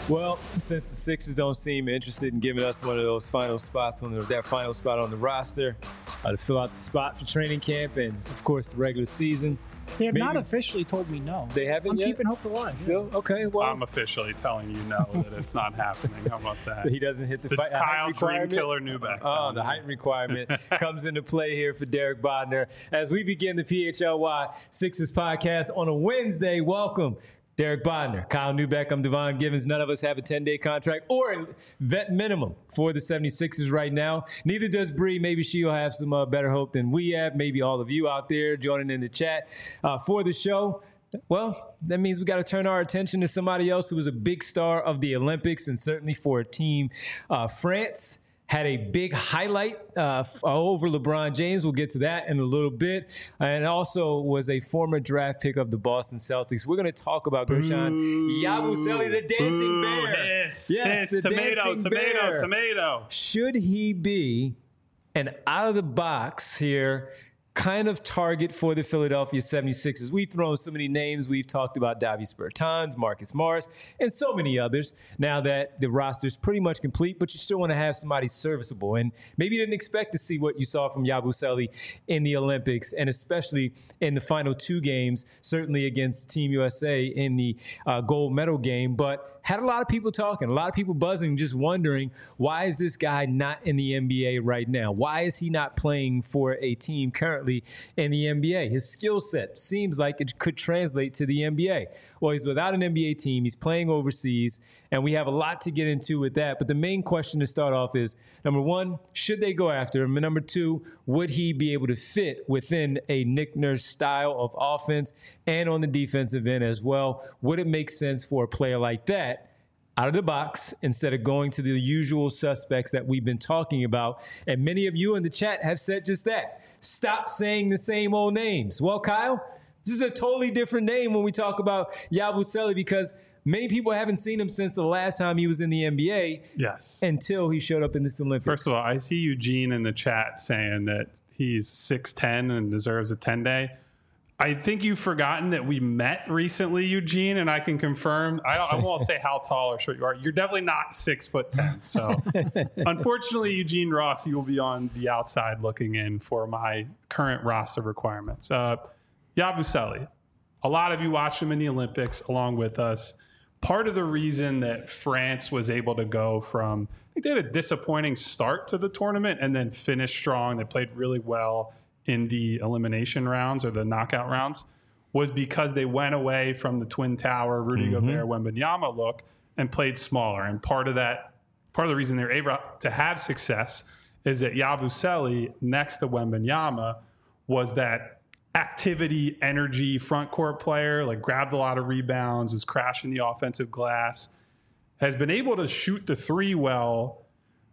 Well, since the Sixers don't seem interested in giving us one of those final spots that final spot on the roster to fill out the spot for training camp and, of course, the regular season. They have not officially told me no. They haven't yet? I'm keeping hope alive. Still? Okay, well. I'm officially telling you no, that it's not happening. How about that? He doesn't hit the Kyle Dreamkiller Neubeck. Oh, the height requirement comes into play here for Derek Bodner. As we begin the PHLY Sixers podcast on a Wednesday, welcome. Derek Bodner, Kyle Neubeck, I'm Devon Givens. None of us have a 10-day contract or a vet minimum for the 76ers right now. Neither does Bree. Maybe she'll have some better hope than we have. Maybe all of you out there joining in the chat for the show. Well, that means we got to turn our attention to somebody else who was a big star of the Olympics and certainly for a team. France had a big highlight over LeBron James. We'll get to that in a little bit. And also was a former draft pick of the Boston Celtics. We're going to talk about Guerschon Yabusele, the dancing bear. Yes, the tomato. Should he be an out-of-the-box here kind of target for the Philadelphia 76ers? We've thrown so many names. We've talked about Davis Bertans, Marcus Morris, and so many others now that the roster's pretty much complete, but you still want to have somebody serviceable. And maybe you didn't expect to see what you saw from Yabusele in the Olympics, and especially in the final two games, certainly against Team USA in the gold medal game, but had a lot of people talking, a lot of people buzzing, just wondering, why is this guy not in the NBA right now? Why is he not playing for a team currently in the NBA? His skill set seems like it could translate to the NBA. Well, he's without an NBA team. He's playing overseas, and we have a lot to get into with that. But the main question to start off is, number one, should they go after him? And number two, would he be able to fit within a Nick Nurse style of offense and on the defensive end as well? Would it make sense for a player like that out of the box instead of going to the usual suspects that we've been talking about? And many of you in the chat have said just that. Stop saying the same old names. Well, Kyle, this is a totally different name when we talk about Yabusele because many people haven't seen him since the last time he was in the NBA. Yes. Until he showed up in this Olympics. First of all, I see Eugene in the chat saying that he's 6'10" and deserves a 10-day. I think you've forgotten that we met recently, Eugene, and I can confirm. I won't say how tall or short you are. You're definitely not 6'10". So, unfortunately, Eugene Ross, you will be on the outside looking in for my current roster requirements. Yabusele, a lot of you watched him in the Olympics along with us. Part of the reason that France was able to go from, I think they had a disappointing start to the tournament and then finished strong. They played really well in the elimination rounds or the knockout rounds, was because they went away from the Twin Tower, Rudy Gobert, Wembanyama look and played smaller. And part of the reason they're able to have success is that Yabusele next to Wembanyama was that activity, energy, front court player, like grabbed a lot of rebounds, was crashing the offensive glass, has been able to shoot the three well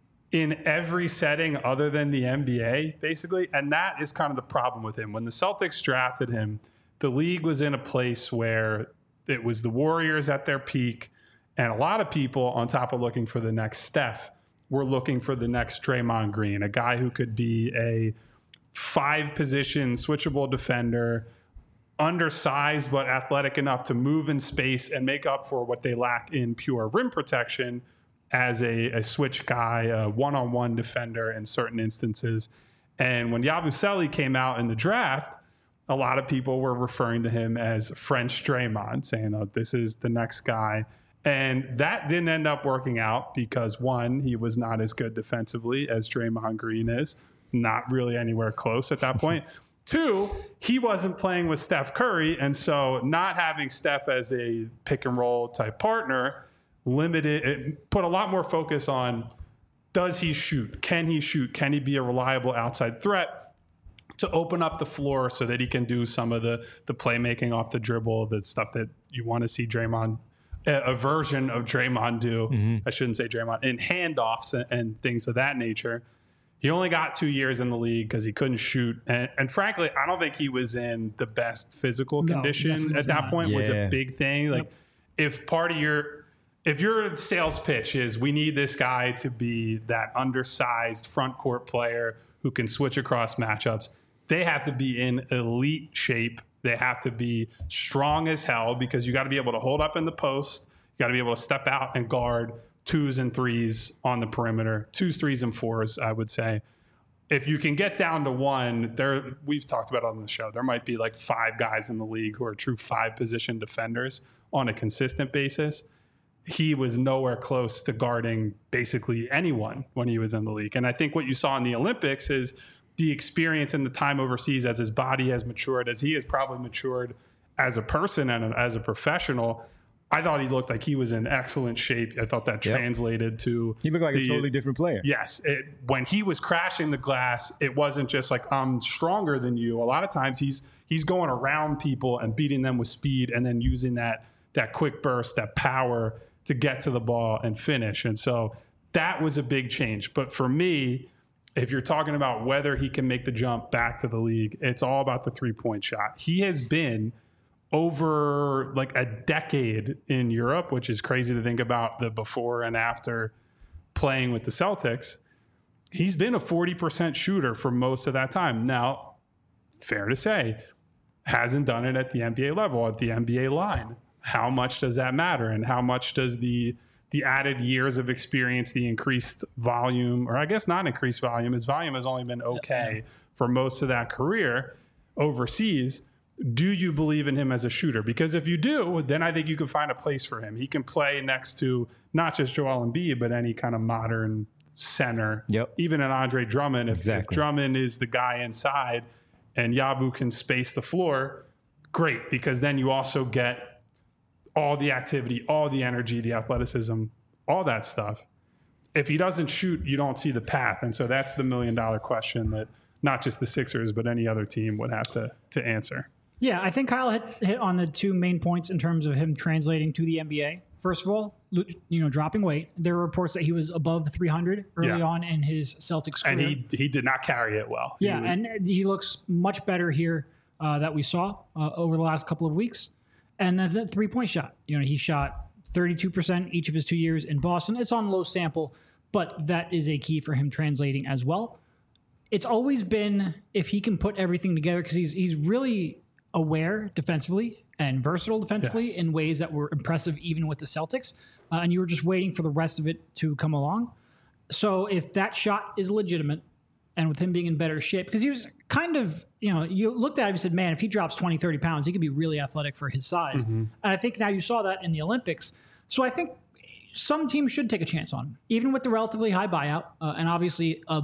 in every setting other than the NBA, basically. And that is kind of the problem with him. When the Celtics drafted him, the league was in a place where it was the Warriors at their peak, and a lot of people, on top of looking for the next Steph, were looking for the next Draymond Green, a guy who could be a 5-position switchable defender, undersized but athletic enough to move in space and make up for what they lack in pure rim protection as a switch guy, a one-on-one defender in certain instances. And when Yabusele came out in the draft, a lot of people were referring to him as French Draymond, saying, oh, this is the next guy. And that didn't end up working out because, one, he was not as good defensively as Draymond Green is, not really anywhere close at that point. Two, he wasn't playing with Steph Curry, and so not having Steph as a pick-and-roll type partner it put a lot more focus on, does he shoot? Can he shoot? Can he be a reliable outside threat to open up the floor so that he can do some of the playmaking off the dribble, the stuff that you want to see Draymond, a version of Draymond do. I shouldn't say Draymond, in handoffs and things of that nature. He only got 2 years in the league because he couldn't shoot. And frankly, I don't think he was in the best physical condition at that point. Was a big thing. Like, if your sales pitch is, we need this guy to be that undersized front court player who can switch across matchups, they have to be in elite shape. They have to be strong as hell because you got to be able to hold up in the post. You got to be able to step out and guard 2s and 3s on the perimeter, 2s, 3s, and 4s, I would say. If you can get down to 1, we've talked about it on the show, there might be like 5 guys in the league who are true 5-position defenders on a consistent basis. He was nowhere close to guarding basically anyone when he was in the league. And I think what you saw in the Olympics is the experience and the time overseas as his body has matured, as he has probably matured as a person and as a professional. I thought he looked like he was in excellent shape. I thought that translated to... He looked like a totally different player. Yes. When he was crashing the glass, it wasn't just like, I'm stronger than you. A lot of times he's going around people and beating them with speed and then using that quick burst, that power to get to the ball and finish. And so that was a big change. But for me, if you're talking about whether he can make the jump back to the league, it's all about the three-point shot. He has been over like a decade in Europe, which is crazy to think about the before and after playing with the Celtics. He's been a 40% shooter for most of that time. Now, fair to say, hasn't done it at the NBA level, at the NBA line. How much does that matter? And how much does the added years of experience, the increased volume, or I guess not increased volume, his volume has only been okay for most of that career overseas. Do you believe in him as a shooter? Because if you do, then I think you can find a place for him. He can play next to not just Joel Embiid, but any kind of modern center. Yep. Even an Andre Drummond. If Drummond is the guy inside and Yabu can space the floor, great, because then you also get all the activity, all the energy, the athleticism, all that stuff. If he doesn't shoot, you don't see the path. And so that's the $1 million question that not just the Sixers, but any other team would have to answer. Yeah, I think Kyle hit on the 2 main points in terms of him translating to the NBA. First of all, dropping weight. There are reports that he was above 300 early on in his Celtics career. And he did not carry it well. Yeah, and he looks much better here that we saw over the last couple of weeks. And then the 3-point shot. He shot 32% each of his 2 years in Boston. It's on low sample, but that is a key for him translating as well. It's always been if he can put everything together, because he's really aware defensively and versatile defensively in ways that were impressive even with the Celtics. And you were just waiting for the rest of it to come along. So if that shot is legitimate, and with him being in better shape, because he was kind of, you looked at him and said, man, if he drops 20, 30 pounds, he could be really athletic for his size. Mm-hmm. And I think now you saw that in the Olympics. So I think some teams should take a chance on him, even with the relatively high buyout. And obviously, a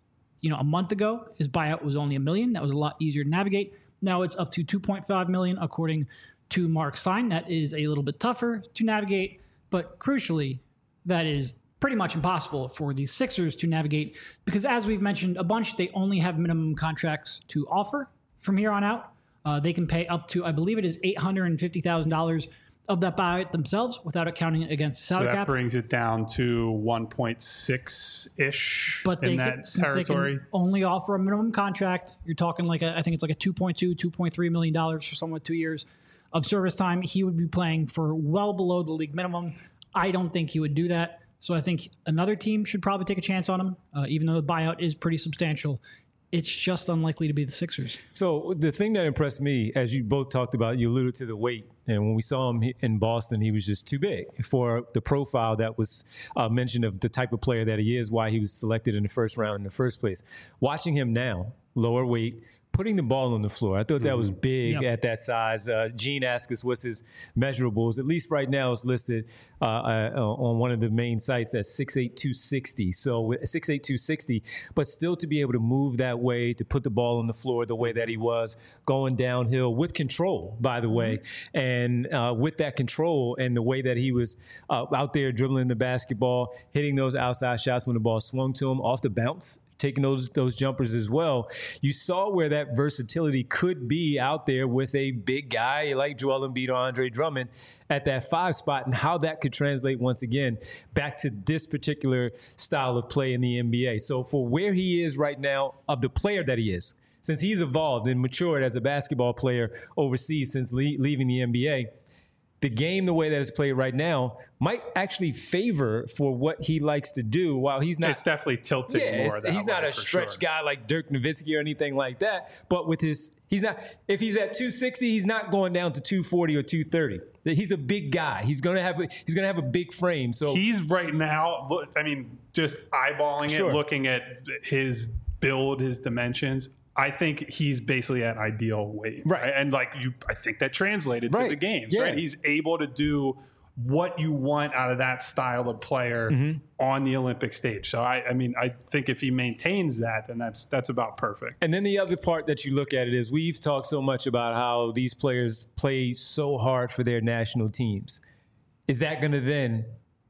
month ago, his buyout was only $1 million. That was a lot easier to navigate. Now it's up to $2.5 million, according to Mark Stein. That is a little bit tougher to navigate, but crucially, that is pretty much impossible for the Sixers to navigate because, as we've mentioned a bunch, they only have minimum contracts to offer from here on out. They can pay up to, I believe it is $850,000 of that buyout themselves without accounting against the salary cap. So that brings it down to 1.6-ish in that territory. They can only offer a minimum contract. You're talking I think it's like a $2.2, $2.3 million for someone with 2 years of service time. He would be playing for well below the league minimum. I don't think he would do that. So I think another team should probably take a chance on him, even though the buyout is pretty substantial. It's just unlikely to be the Sixers. So the thing that impressed me, as you both talked about, you alluded to the weight. And when we saw him in Boston, he was just too big for the profile that was mentioned of the type of player that he is, why he was selected in the first round in the first place. Watching him now, lower weight, putting the ball on the floor. I thought that was big at that size. Gene asked us what's his measurables. At least right now it's listed on one of the main sites at 6'8", 260. So 6'8", 260, but still to be able to move that way, to put the ball on the floor the way that he was, going downhill with control, by the way. And with that control and the way that he was out there dribbling the basketball, hitting those outside shots when the ball swung to him off the bounce, taking those jumpers as well. You saw where that versatility could be out there with a big guy like Joel Embiid or Andre Drummond at that 5 spot, and how that could translate once again back to this particular style of play in the NBA. So for where he is right now, of the player that he is, since he's evolved and matured as a basketball player overseas since leaving the NBA, the game, the way that it's played right now, might actually favor for what he likes to do. While he's not, it's definitely tilting more. He's not a stretch guy like Dirk Nowitzki or anything like that. But with his He's not. If he's at 260, he's not going down to 240 or 230. He's a big guy. He's gonna have a big frame. So he's right now. Look, I mean, just eyeballing it, looking at his build, his dimensions. I think he's basically at ideal weight, right? And I think that translated to the games, right? He's able to do what you want out of that style of player on the Olympic stage. So I mean, I think if he maintains that, then that's about perfect. And then the other part that you look at it is we've talked so much about how these players play so hard for their national teams. Is that going to then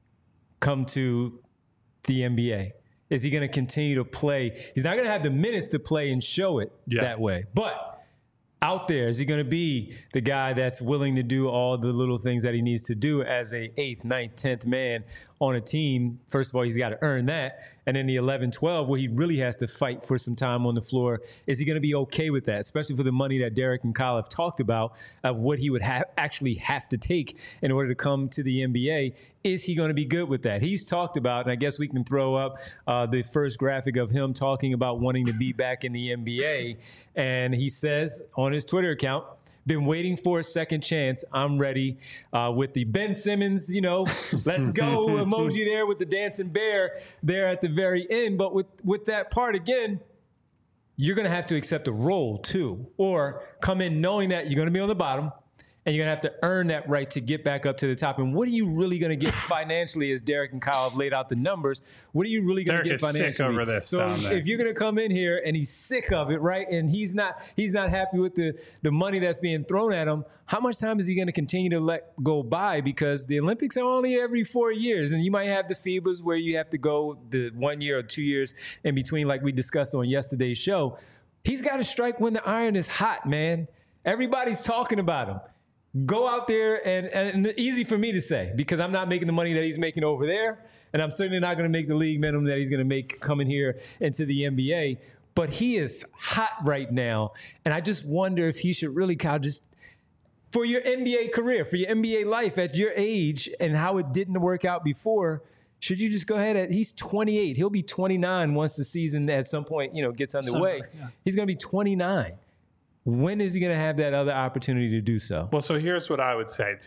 come to the NBA? Is he going to continue to play? He's not going to have the minutes to play and show it that way. But out there, is he going to be the guy that's willing to do all the little things that he needs to do as a 8th, 9th, 10th man on a team? First of all, he's got to earn that. And then the 11, 12, where he really has to fight for some time on the floor, is he going to be okay with that, especially for the money that Derek and Kyle have talked about of what he would actually have to take in order to come to the NBA? Is he going to be good with that? He's talked about, and I guess we can throw up the first graphic of him talking about wanting to be back in the NBA. And he says on his Twitter account, been waiting for a second chance. I'm ready with the Ben Simmons, let's go emoji there with the dancing bear there at the very end. But with that part, again, you're going to have to accept a role too, or come in knowing that you're going to be on the bottom and you're going to have to earn that right to get back up to the top. And what are you really going to get financially, as Derek and Kyle have laid out the numbers? What are you really going to get financially? Sick over this. So if you're going to come in here and he's sick of it, right, and he's not happy with the money that's being thrown at him, how much time is he going to continue to let go by? Because the Olympics are only every 4 years, and you might have the FIBAs where you have to go the 1 year or 2 years in between, like we discussed on yesterday's show. He's got to strike when the iron is hot, man. Everybody's talking about him. Go out there, and easy for me to say because I'm not making the money that he's making over there, and I'm certainly not going to make the league minimum that he's going to make coming here into the NBA. But he is hot right now, and I just wonder if he should really, Kyle, just for your NBA career, for your NBA life at your age and how it didn't work out before, should you just go ahead? He's 28. He'll be 29 once the season at some point, gets underway. He's going to be 29. When is he going to have that other opportunity to do so? Well, so here's what I would say.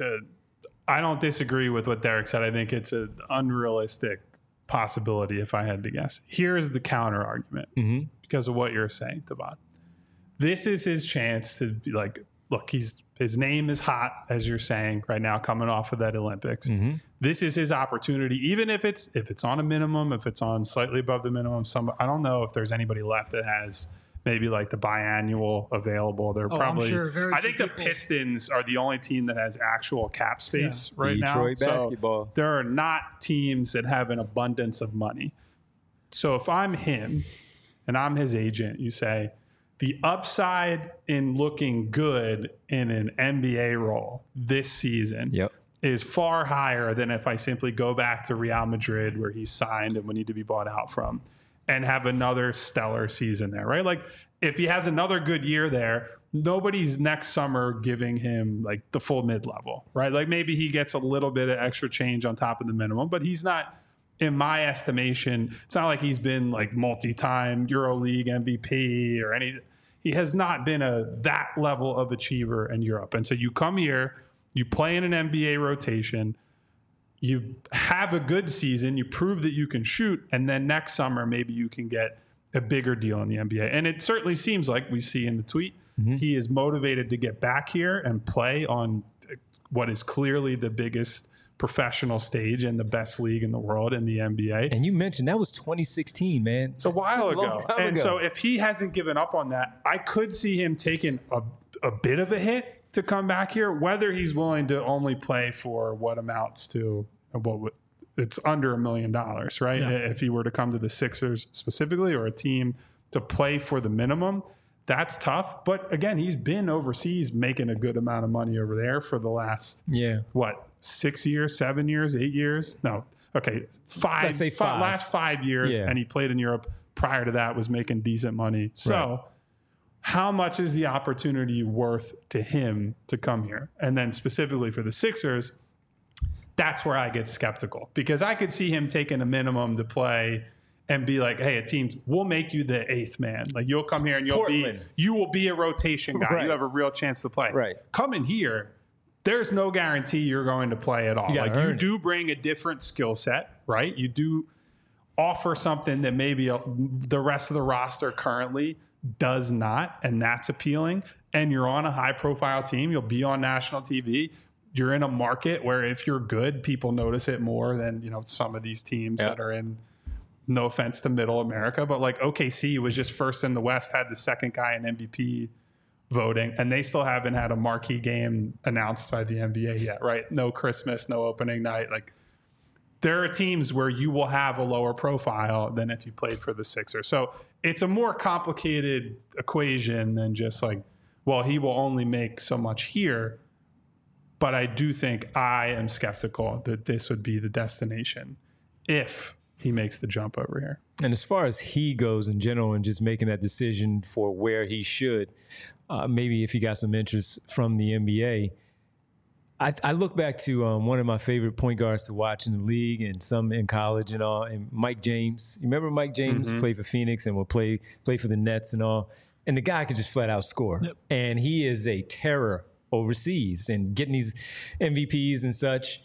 I don't disagree with what Derek said. I think it's an unrealistic possibility if I had to guess. Here's the counter argument because of what you're saying, Tavon. This is his chance to be like, look, his name is hot, as you're saying right now, coming off of that Olympics. This is his opportunity, even if it's on a minimum, if it's on slightly above the minimum. I don't know if there's anybody left that has maybe like the biannual available. They're probably. I'm sure I think the Pistons are the only team that has actual cap space right now. Detroit basketball. So there are not teams that have an abundance of money. So if I'm him and I'm his agent, you say the upside in looking good in an NBA role this season is far higher than if I simply go back to Real Madrid where he's signed and we need to be bought out from, and have another stellar season there, right? Like if he has another good year there, nobody's next summer giving him like the full mid-level, right? Like maybe he gets a little bit of extra change on top of the minimum, but he's not, in my estimation, it's not like he's been like multi-time EuroLeague MVP or any. He has not been that level of achiever in Europe. And so you come here, you play in an NBA rotation, you have a good season, you prove that you can shoot, and then next summer maybe you can get a bigger deal in the NBA. And it certainly seems like we see in the tweet, he is motivated to get back here and play on what is clearly the biggest professional stage and the best league in the world in the NBA. And you mentioned that was 2016, man. It's a while ago. And so if he hasn't given up on that, I could see him taking a bit of a hit to come back here, whether he's willing to only play for what amounts to it's under $1 million, right? Yeah. If he were to come to the Sixers specifically or a team to play for the minimum, that's tough. But again, he's been overseas making a good amount of money over there for the last, 6 years, 7 years, 8 years? No. Okay. Five. Last 5 years. Yeah. And he played in Europe. Prior to that was making decent money. So how much is the opportunity worth to him to come here? And then specifically for the Sixers, that's where I get skeptical because I could see him taking a minimum to play and be like, hey, a team, we'll make you the 8th man. Like, you'll come here and Portland. you will be a rotation guy. Right. You have a real chance to play. Right. Coming here, there's no guarantee you're going to play at all. gotta Like, you earn do bring a different skill set, right? You do offer something that maybe the rest of the roster currently does not, and that's appealing. And you're on a high-profile team. You'll be on national TV. You're in a market where if you're good, people notice it more than, you know, some of these teams that are in, no offense to middle America, but like OKC was just first in the West, had the second guy in MVP voting, and they still haven't had a marquee game announced by the NBA yet, right? No Christmas, no opening night. Like, there are teams where you will have a lower profile than if you played for the Sixers. So it's a more complicated equation than just like, well, he will only make so much here. But I do think I am skeptical that this would be the destination if he makes the jump over here. And as far as he goes in general and just making that decision for where he should, maybe if he got some interest from the NBA, I look back to one of my favorite point guards to watch in the league and some in college and all, and Mike James. You remember Mike James played for Phoenix and would play for the Nets and all, and the guy could just flat out score. Yep. And he is a terror overseas and getting these MVPs and such.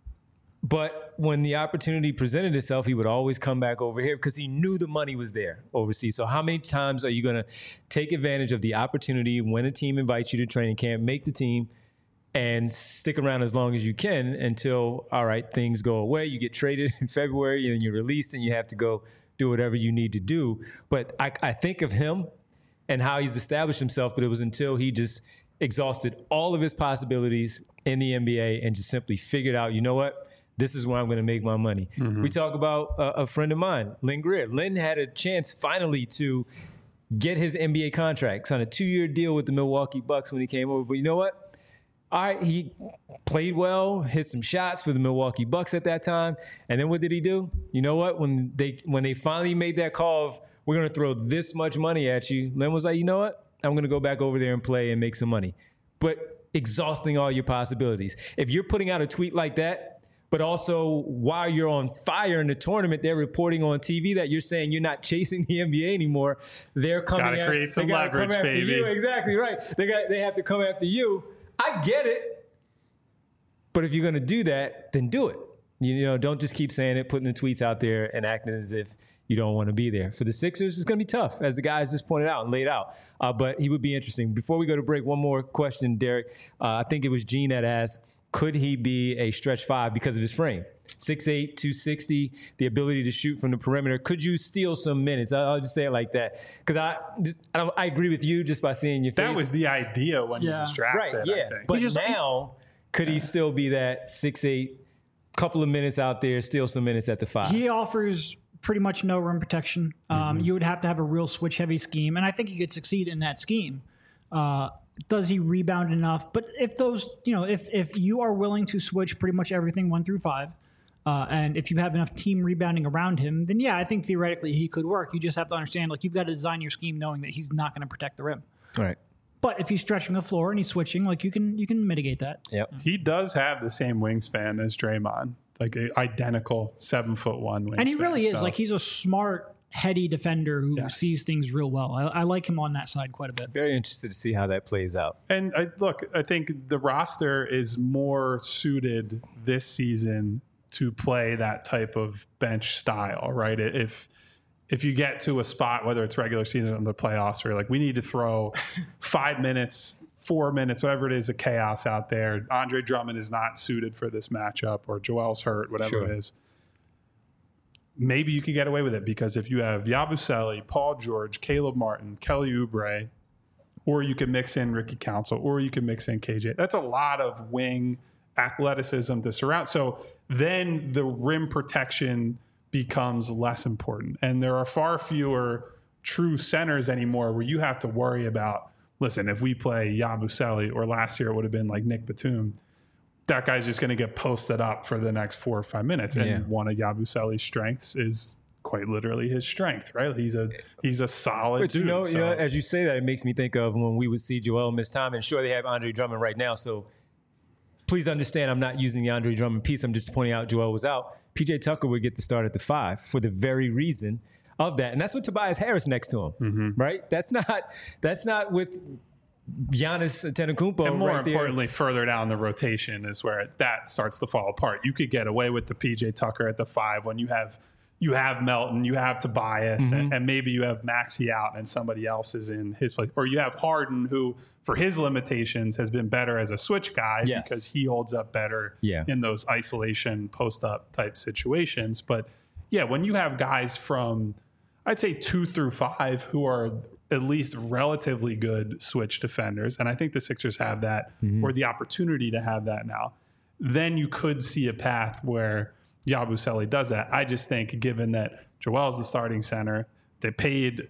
But when the opportunity presented itself, he would always come back over here because he knew the money was there overseas. So how many times are you going to take advantage of the opportunity when a team invites you to training camp, make the team, and stick around as long as you can until, all right, things go away. You get traded in February and then you're released and you have to go do whatever you need to do. But I think of him and how he's established himself, but it was until he just exhausted all of his possibilities in the NBA and just simply figured out, you know what? This is where I'm going to make my money. We talk about a friend of mine, Lynn Greer. Lynn had a chance finally to get his NBA contract, signed a 2-year deal with the Milwaukee Bucks when he came over. But you know what? All right, he played well, hit some shots for the Milwaukee Bucks at that time. And then what did he do? You know what? When they finally made that call of, we're going to throw this much money at you, Lynn was like, you know what? I'm going to go back over there and play and make some money. But exhausting all your possibilities. If you're putting out a tweet like that, but also while you're on fire in the tournament, they're reporting on TV that you're saying you're not chasing the NBA anymore. They're coming Gotta create some leverage, baby. you. Exactly right. They have to come after you. I get it. But if you're going to do that, then do it. You know, don't just keep saying it, putting the tweets out there and acting as if you don't want to be there. For the Sixers, it's going to be tough, as the guys just pointed out and laid out. But he would be interesting. Before we go to break, one more question, Derek. I think it was Gene that asked, could he be a stretch 5 because of his frame? 6'8", 260, the ability to shoot from the perimeter. Could you steal some minutes? I'll just say it like that. Because I agree with you just by seeing your face. That was the idea when he was drafted, right, yeah. I think. But now, could he still be that 6'8", couple of minutes out there, steal some minutes at the 5? He offers pretty much no rim protection. You would have to have a real switch-heavy scheme, and I think he could succeed in that scheme. Does he rebound enough? But if those, if you are willing to switch pretty much everything 1 through 5, and if you have enough team rebounding around him, then yeah, I think theoretically he could work. You just have to understand, like, you've got to design your scheme knowing that he's not going to protect the rim. All right. But if he's stretching the floor and he's switching, like, you can mitigate that. Yep. He does have the same wingspan as Draymond, like an identical 7'1" wingspan. And he really is. Like, he's a smart, heady defender who sees things real well. I like him on that side quite a bit. Very interested to see how that plays out. And I think the roster is more suited this season to play that type of bench style, right? If you get to a spot, whether it's regular season or the playoffs, where you're like, we need to throw 5 minutes, 4 minutes, whatever it is, of chaos out there. Andre Drummond is not suited for this matchup, or Joel's hurt, whatever it is. Maybe you can get away with it because if you have Yabusele, Paul George, Caleb Martin, Kelly Oubre, or you can mix in Ricky Council, or you can mix in KJ. That's a lot of wing athleticism to surround. So then the rim protection becomes less important. And there are far fewer true centers anymore where you have to worry about, listen, if we play Yabusele, or last year it would have been like Nick Batum, that guy's just going to get posted up for the next 4 or 5 minutes. And one of Yabusele's strengths is quite literally his strength, right? He's a solid dude. You know, as you say that, it makes me think of when we would see Joel miss time. And sure, they have Andre Drummond right now. So please understand, I'm not using the Andre Drummond piece. I'm just pointing out Joel was out. PJ Tucker would get the start at the 5 for the very reason of that. And that's with Tobias Harris next to him, right? That's not with Giannis Antetokounmpo. And more right importantly, further down the rotation is where that starts to fall apart. You could get away with the PJ Tucker at the 5 when you have Melton, you have Tobias, and maybe you have Maxey out and somebody else is in his place. Or you have Harden, who, for his limitations, has been better as a switch guy because he holds up better in those isolation, post-up type situations. But, yeah, when you have guys from, I'd say 2 through 5 who are at least relatively good switch defenders, and I think the Sixers have that, or the opportunity to have that now, then you could see a path where Yabusele does that. I just think, given that Joel's the starting center, they paid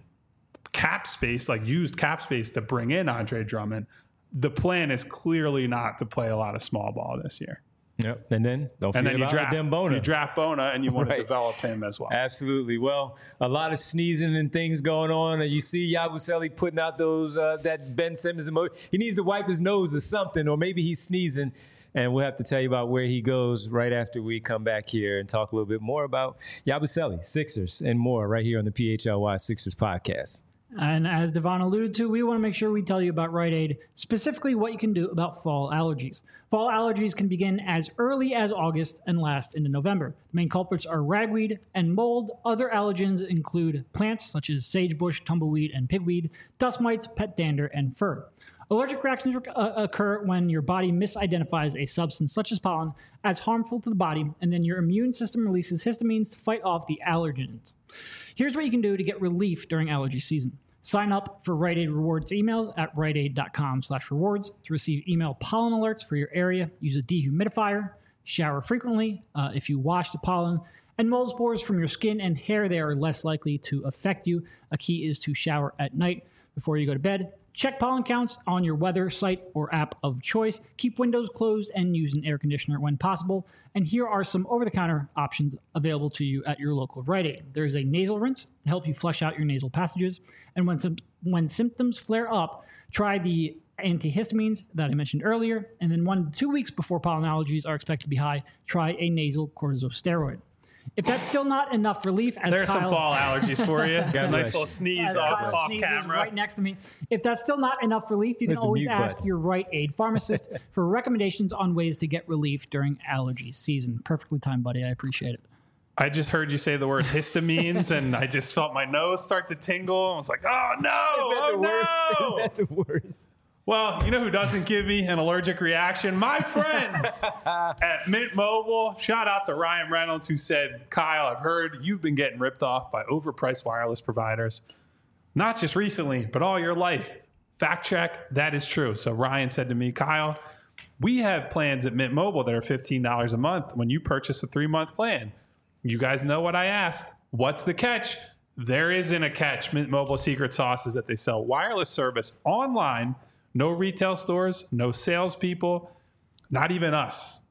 cap space, like used cap space to bring in Andre Drummond, the plan is clearly not to play a lot of small ball this year. Yep. And then you draft Bona and you want to develop him as well. Absolutely. Well, a lot of sneezing and things going on. And you see Yabusele putting out those that Ben Simmons emoji. He needs to wipe his nose or something, or maybe he's sneezing. And we'll have to tell you about where he goes right after we come back here and talk a little bit more about Yabusele, Sixers, and more right here on the PHLY Sixers podcast. And as Devon alluded to, we want to make sure we tell you about Rite Aid, specifically what you can do about fall allergies. Fall allergies can begin as early as August and last into November. The main culprits are ragweed and mold. Other allergens include plants such as sagebush, tumbleweed, and pigweed, dust mites, pet dander, and fur. Allergic reactions occur when your body misidentifies a substance such as pollen as harmful to the body, and then your immune system releases histamines to fight off the allergens. Here's what you can do to get relief during allergy season. Sign up for Rite Aid Rewards emails at riteaid.com/rewards to receive email pollen alerts for your area. Use a dehumidifier. Shower frequently if you wash the pollen. And mold spores from your skin and hair, they are less likely to affect you. A key is to shower at night before you go to bed. Check pollen counts on your weather site or app of choice. Keep windows closed and use an air conditioner when possible. And here are some over-the-counter options available to you at your local Rite Aid. There is a nasal rinse to help you flush out your nasal passages. And when symptoms flare up, try the antihistamines that I mentioned earlier. And then 1 to 2 weeks before pollen allergies are expected to be high, try a nasal corticosteroid. If that's still not enough relief, as there's Kyle, some fall allergies for you. Got a nice little sneeze off camera. Right next to me. If that's still not enough relief, you can always ask your Rite Aid pharmacist for recommendations on ways to get relief during allergy season. Perfectly timed, buddy. I appreciate it. I just heard you say the word histamines, and I just felt my nose start to tingle. I was like, oh, no. Is that the worst? Well, you know who doesn't give me an allergic reaction? My friends at Mint Mobile. Shout out to Ryan Reynolds, who said, Kyle, I've heard you've been getting ripped off by overpriced wireless providers. Not just recently, but all your life. Fact check, that is true. So Ryan said to me, Kyle, we have plans at Mint Mobile that are $15 a month when you purchase a 3-month plan. You guys know what I asked. What's the catch? There isn't a catch. Mint Mobile secret sauce is that they sell wireless service online. No retail stores, no salespeople, not even us.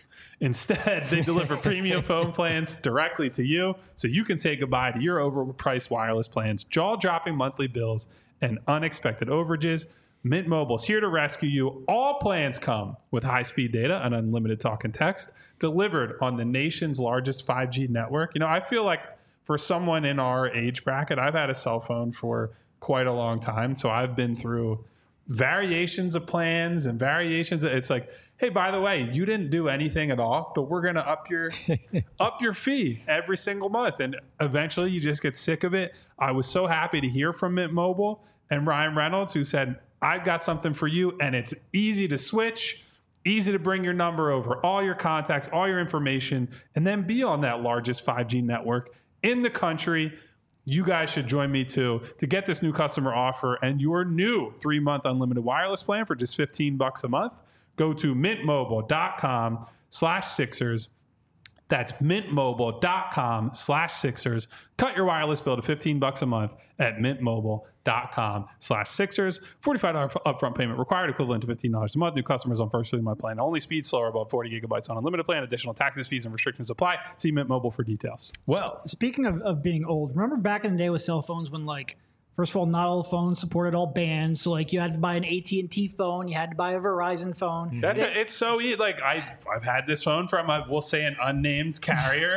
Instead, they deliver premium phone plans directly to you so you can say goodbye to your overpriced wireless plans, jaw-dropping monthly bills, and unexpected overages. Mint Mobile's here to rescue you. All plans come with high-speed data and unlimited talk and text delivered on the nation's largest 5G network. You know, I feel like for someone in our age bracket, I've had a cell phone for quite a long time, so I've been through variations of plans and variations. It's like, hey, by the way, you didn't do anything at all, but we're going to up your fee every single month. And eventually you just get sick of it. I was so happy to hear from Mint Mobile and Ryan Reynolds, who said, I've got something for you. And it's easy to switch, easy to bring your number over, all your contacts, all your information, and then be on that largest 5G network in the country. You guys should join me too to get this new customer offer and your new 3-month unlimited wireless plan for just $15 a month. Go to mintmobile.com/Sixers. That's mintmobile.com/Sixers. Cut your wireless bill to $15 a month at mintmobile.com/Sixers. $45 upfront payment required, equivalent to $15 a month. New customers on first 3-month plan. Only speed slower, above 40 gigabytes on unlimited plan. Additional taxes, fees, and restrictions apply. See Mint Mobile for details. Well, speaking of being old, remember back in the day with cell phones when, like, first of all, not all phones supported all bands. So, like, you had to buy an AT&T phone. You had to buy a Verizon phone. It's so easy. Like, I've had this phone from, we'll say, an unnamed carrier.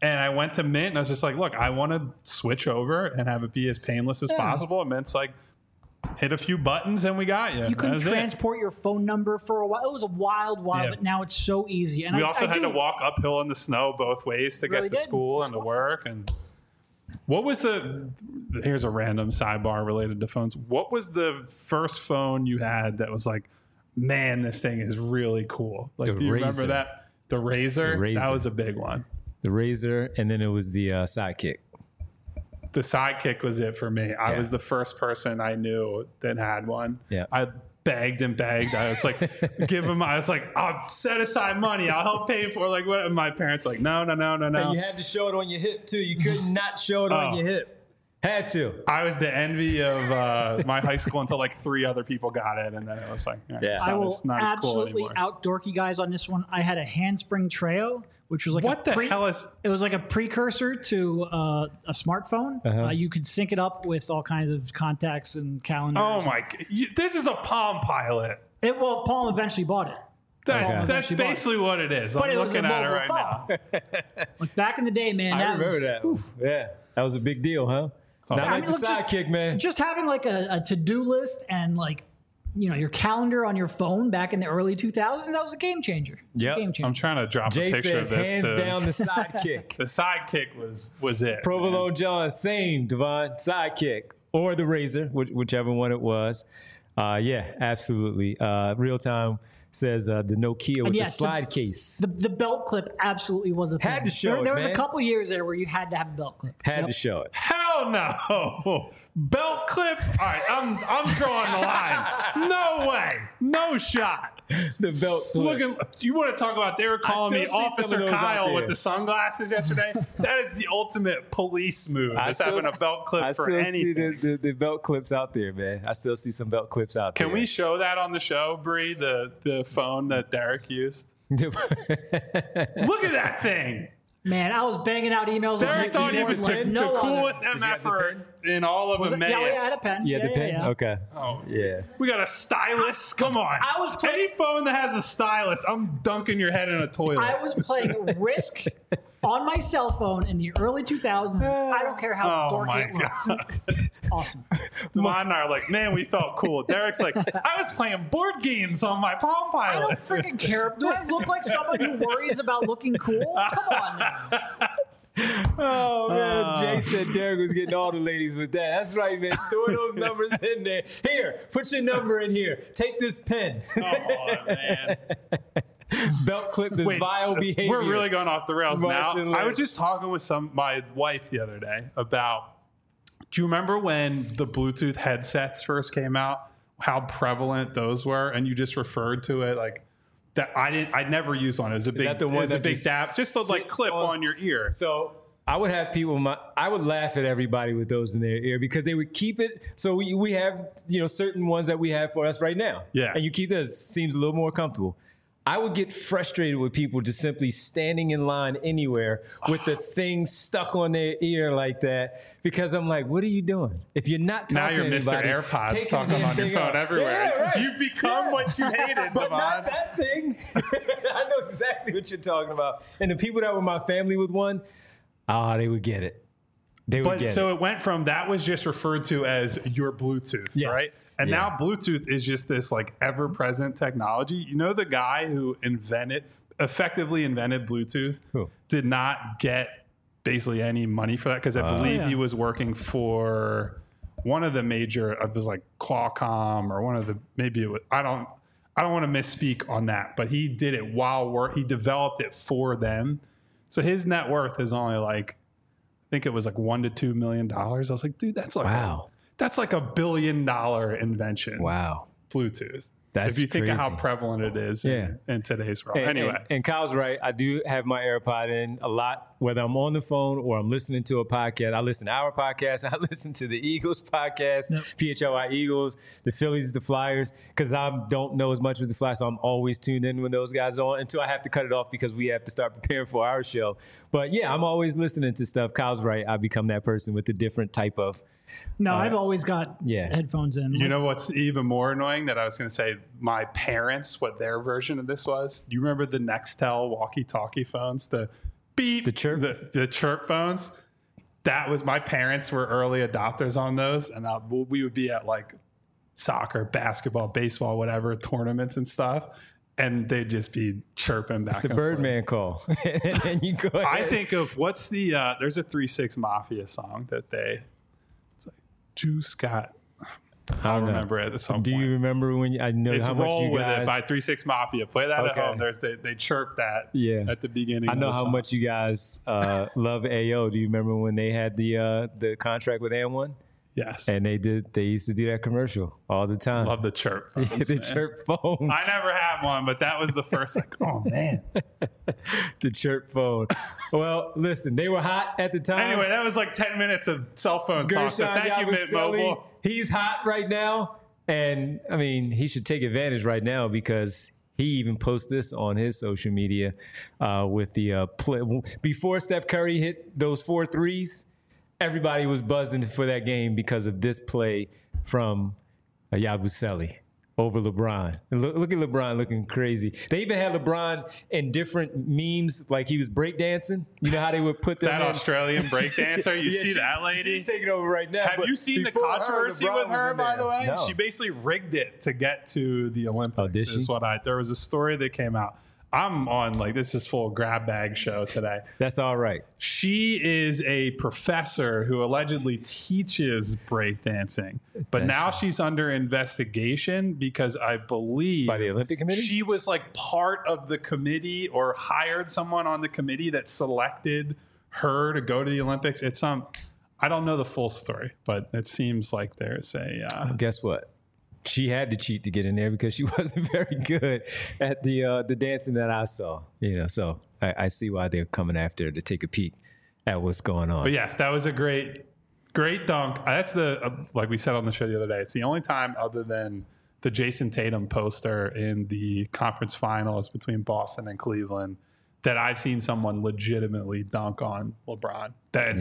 And I went to Mint and I was just like, look, I want to switch over and have it be as painless as possible. And Mint's like, hit a few buttons and we got you. You couldn't transport your phone number for a while. It was a wild, but now it's so easy. And we also had to walk uphill in the snow both ways to get to school and to work. And what was here's a random sidebar related to phones. What was the first phone you had that was like, man, this thing is really cool? Like, do you remember that? The Razor? That was a big one. The Razor, and then it was the Sidekick. The Sidekick was it for me. I was the first person I knew that had one. Yeah. I begged and begged. I was like, I was like, I'll set aside money. I'll help pay for like what. And my parents were like, no. And you had to show it on your hip too. You could not show it on your hip. Had to. I was the envy of my high school until like 3 other people got it, and then it was like, I will absolutely out dorky guys on this one. I had a Handspring Treo, which was like it was like a precursor to a smartphone. You could sync it up with all kinds of contacts and calendars. Oh my! This is a Palm Pilot. Palm eventually bought it. That's basically what it is. I'm looking at it right now. Like back in the day, man. I remember that. Yeah, that was a big deal, huh? Not like the Sidekick, man. Just having like a to-do list and like, your calendar on your phone back in the early 2000s, that was a game changer. Yeah, I'm trying to drop a picture of this. Hands down the Sidekick. The Sidekick was it. Provolone John, same, Devon, Sidekick. Or the Razor, whichever one it was. Absolutely. Real Time says the Nokia with the slide case. The belt clip absolutely was a thing. Had to show it, There was a couple years there where you had to have a belt clip. Had to show it. Hell no. Belt clip? All right, I'm drawing the line. No way. No shot. The belt clip. You want to talk about, they were calling me Officer Kyle with the sunglasses yesterday? That is the ultimate police move. Just having a belt clip for anything. I still see the belt clips out there, man. I still see some belt clips out there. Can we show that on the show, Bree? The phone that Derek used? Look at that thing. Man, I was banging out emails. Derek thought he was the coolest MFer in all of Emmaus. Yeah, I had a pen. You had the pen? Yeah. Okay. Oh, yeah. We got a stylus. Come on. Any phone that has a stylus, I'm dunking your head in a toilet. I was playing Risk on my cell phone in the early 2000s. I don't care how dorky it looks. Awesome. Devon and I are like, man, we felt cool. Derek's like, I was playing board games on my Palm Pilot. I don't freaking care. Do I look like someone who worries about looking cool? Come on now. Oh man, Jay said Derek was getting all the ladies with that. That's right, man. Store those numbers in there. Here, put your number in here. Take this pen. Come on, man. Belt clip this vile behavior. We're really going off the rails now. Life. I was just talking with my wife the other day about, do you remember when the Bluetooth headsets first came out, how prevalent those were? And you just referred to it like that. I'd never used one. It was a big, dab, just to like clip on your ear. So I would have people, I would laugh at everybody with those in their ear because they would keep it. So we have, certain ones that we have for us right now. Yeah. And you keep this, seems a little more comfortable. I would get frustrated with people just simply standing in line anywhere with the thing stuck on their ear like that because I'm like, what are you doing? If you're not talking to anybody, now you're Mr. AirPods talking on your phone everywhere. Yeah, right. You've become what you hated, but not that thing. I know exactly what you're talking about. And the people that were my family with one, they would get it. It went from that was just referred to as your Bluetooth, right? And now Bluetooth is just this like ever-present technology. You know, the guy who effectively invented Bluetooth did not get basally any money for that because I believe he was working for one of the major, it was like Qualcomm or one of the, maybe it was, I don't want to misspeak on that, but he did it he developed it for them. So his net worth is only like, I think it was like $1 to $2 million. I was like, dude, that's like that's like $1 billion invention. Wow. Bluetooth. That's if you think crazy. of how prevalent it is in today's world. Anyway. And Kyle's right. I do have my AirPod in a lot, whether I'm on the phone or I'm listening to a podcast. I listen to our podcast. I listen to the Eagles podcast, PHLY Eagles, the Phillies, the Flyers, because I don't know as much with the Flyers, so I'm always tuned in when those guys are on until I have to cut it off because we have to start preparing for our show. But yeah, I'm always listening to stuff. Kyle's right. I become that person with a different type of. No, I've always got headphones in. You know what's even more annoying that I was going to say, my parents, what their version of this was? Do you remember the Nextel walkie-talkie phones? The beep. The chirp? The chirp phones. That was, my parents were early adopters on those. And we would be at like soccer, basketball, baseball, whatever, tournaments and stuff. And they'd just be chirping back. It's the Birdman call. And you go ahead. I think of what's the, there's a 3-6 Mafia song that it's like, Juice got, I don't remember it at some point. Do you remember when I know It's how much Roll you With guys, It by 3-6 Mafia. Play that Okay. at home. They chirp that at the beginning. I know of the how song. much you guys love AO. Do you remember when they had the contract with AM1? Yes. And they used to do that commercial all the time. Love the chirp phones, the man. chirp phone. I never had one, but that was the first, like, oh man. The chirp phone. Well, listen, they were hot at the time. Anyway, that was like 10 minutes of cell phone talk. So Gershon thank you, Mint Yabusele, Mobile. he's hot right now. And I mean, he should take advantage right now because he even posts this on his social media with the play. Before Steph Curry hit those 4 threes, everybody was buzzing for that game because of this play from Yabusele over LeBron. And look at LeBron looking crazy. They even had LeBron in different memes, like he was breakdancing. You know how they would put them That in? Australian breakdancer, you see that lady? She's taking over right now. Have but you seen the before her, controversy LeBron with was her, in by there. the way? No. She basically rigged it to get to the Olympics. Oh, did she? Is what there was a story that came out. I'm on, like, this is full grab bag show today. That's all right. She is a professor who allegedly teaches breakdancing, but now she's under investigation because I believe By the Olympic Committee? she was like part of the committee or hired someone on the committee that selected her to go to the Olympics. It's I don't know the full story, but it seems like there's a Guess what? She had to cheat to get in there because she wasn't very good at the dancing that I saw. You know, so I see why they're coming after her to take a peek at what's going on. But yes, that was a great dunk. That's the like we said on the show the other day. It's the only time other than the Jason Tatum poster in the conference finals between Boston and Cleveland that I've seen someone legitimately dunk on LeBron.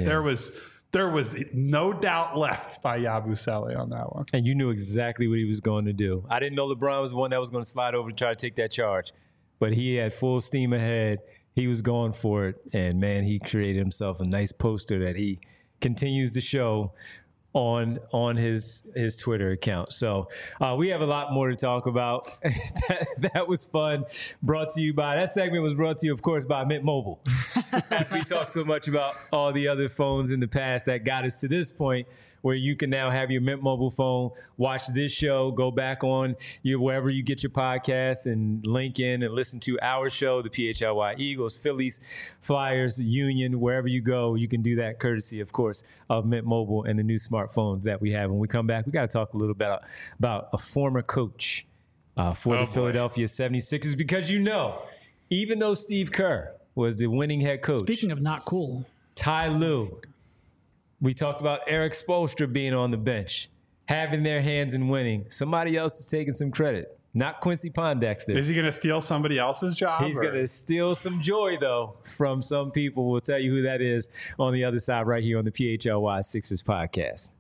There was no doubt left by Yabusele on that one. And you knew exactly what he was going to do. I didn't know LeBron was the one that was going to slide over to try to take that charge, but he had full steam ahead. He was going for it, and man, he created himself a nice poster that he continues to show on his Twitter account. So we have a lot more to talk about. that was fun. That segment was brought to you, of course, by Mint Mobile. As we talk so much about all the other phones in the past that got us to this point where you can now have your Mint Mobile phone, watch this show, go back on wherever you get your podcasts and link in and listen to our show, the PHLY Eagles, Phillies, Flyers, Union, wherever you go, you can do that courtesy, of course, of Mint Mobile and the new smartphones that we have. When we come back, we got to talk a little bit about a former coach for the Philadelphia 76ers because even though Steve Kerr was the winning head coach. Speaking of not cool. Ty Lue. We talked about Eric Spoelstra being on the bench, having their hands in winning. Somebody else is taking some credit, not Quincy Pondexter. Is he going to steal somebody else's job? He's going to steal some joy, though, from some people. We'll tell you who that is on the other side right here on the PHLY Sixers podcast.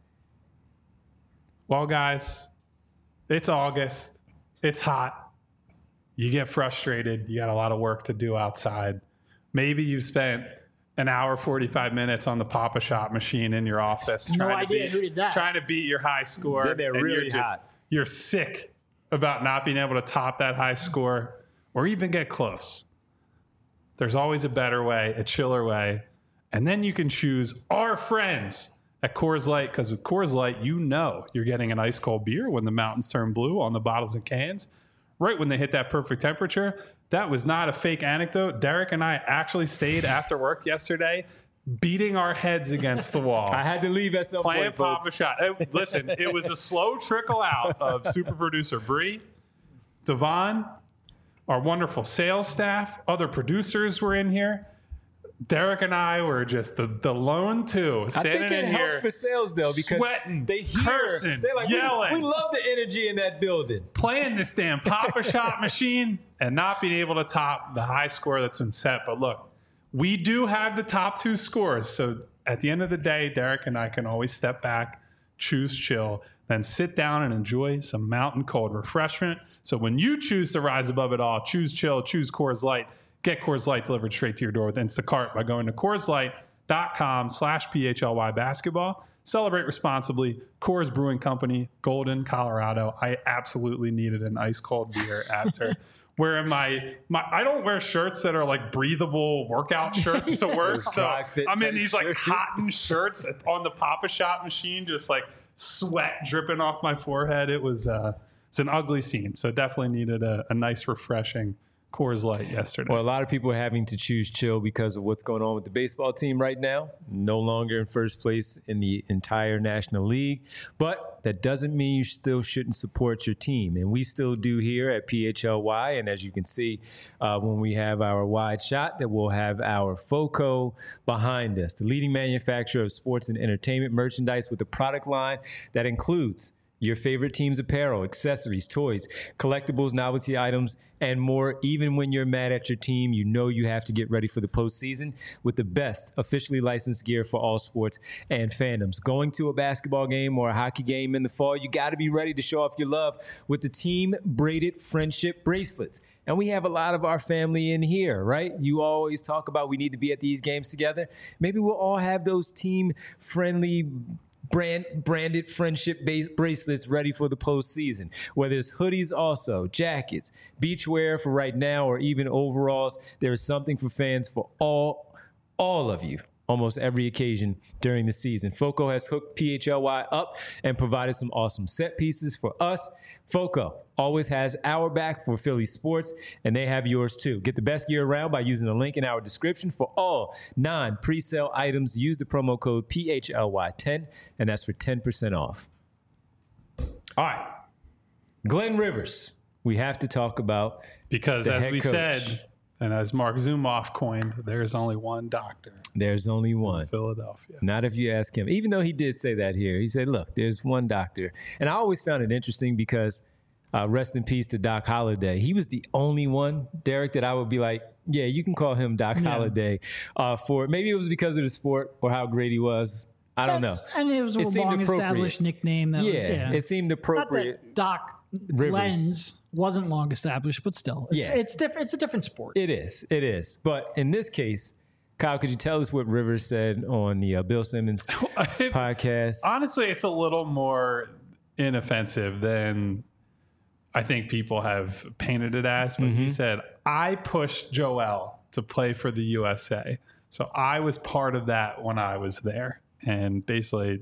Well, guys, it's August. It's hot. You get frustrated. You got a lot of work to do outside. Maybe you spent an hour, 45 minutes on the Papa Shot machine in your office No idea who did that. trying to beat your high score. Then they're and really hot. You're sick about not being able to top that high score or even get close. There's always a better way, a chiller way. And then you can choose our friends at Coors Light, because with Coors Light, you're getting an ice cold beer when the mountains turn blue on the bottles and cans, right when they hit that perfect temperature. That was not a fake anecdote. Derek and I actually stayed after work yesterday, beating our heads against the wall. I had to leave at some Playing point, folks. Papa Shot. Listen, it was a slow trickle out of super producer Bree, Devon, our wonderful sales staff, other producers were in here. Derek and I were just the lone two I standing think it in helps here, for sales, though, because sweating, they hear, cursing, they're like, yelling. We love the energy in that building. playing this damn Papa Shot machine and not being able to top the high score that's been set. But look, we do have the top 2 scores. So at the end of the day, Derek and I can always step back, choose chill, then sit down and enjoy some mountain cold refreshment. So when you choose to rise above it all, choose chill, choose Coors Light. Get Coors Light delivered straight to your door with Instacart by going to CoorsLight.com/PHLY basketball. Celebrate responsibly. Coors Brewing Company, Golden, Colorado. I absolutely needed an ice cold beer after wearing my I don't wear shirts that are like breathable workout shirts to work. So I'm in these like cotton shirts on the Pop-A-Shot machine, just like sweat dripping off my forehead. It's an ugly scene. So definitely needed a nice, refreshing Coors Light yesterday. Well, a lot of people are having to choose chill because of what's going on with the baseball team right now. No longer in first place in the entire National League. But that doesn't mean you still shouldn't support your team. And we still do here at PHLY. And as you can see, when we have our wide shot, that we'll have our FOCO behind us, the leading manufacturer of sports and entertainment merchandise with a product line that includes your favorite team's apparel, accessories, toys, collectibles, novelty items, and more. Even when you're mad at your team, you know you have to get ready for the postseason with the best officially licensed gear for all sports and fandoms. Going to a basketball game or a hockey game in the fall, you got to be ready to show off your love with the Team Braided Friendship Bracelets. And we have a lot of our family in here, right? You always talk about we need to be at these games together. Maybe we'll all have those team-friendly branded friendship bracelets ready for the postseason. Whether it's hoodies also, jackets, beachwear for right now, or even overalls, there is something for fans for all of you. Almost every occasion during the season. FOCO has hooked PHLY up and provided some awesome set pieces for us. FOCO always has our back for Philly sports, and they have yours too. Get the best gear around by using the link in our description for all non-presale items. Use the promo code PHLY10, and that's for 10% off. All right. Glenn Rivers, we have to talk about because the as head we coach. Said, and as Mark Zumoff coined, there's only one doctor. There's only one. In Philadelphia. Not if you ask him. Even though he did say that here. He said, look, there's one doctor. And I always found it interesting because rest in peace to Doc Holliday. He was the only one, Derek, that I would be like, yeah, you can call him Doc Holliday. For maybe it was because of the sport or how great he was. I don't know. And it was a long-established nickname. It seemed appropriate. Not that Doc Rivers. Glenn's wasn't long established, but still, it's different. It's a different sport. It is. But in this case, Kyle, could you tell us what Rivers said on the Bill Simmons podcast? Honestly, it's a little more inoffensive than I think people have painted it as. But he said, I pushed Joel to play for the USA. So I was part of that when I was there. And basically,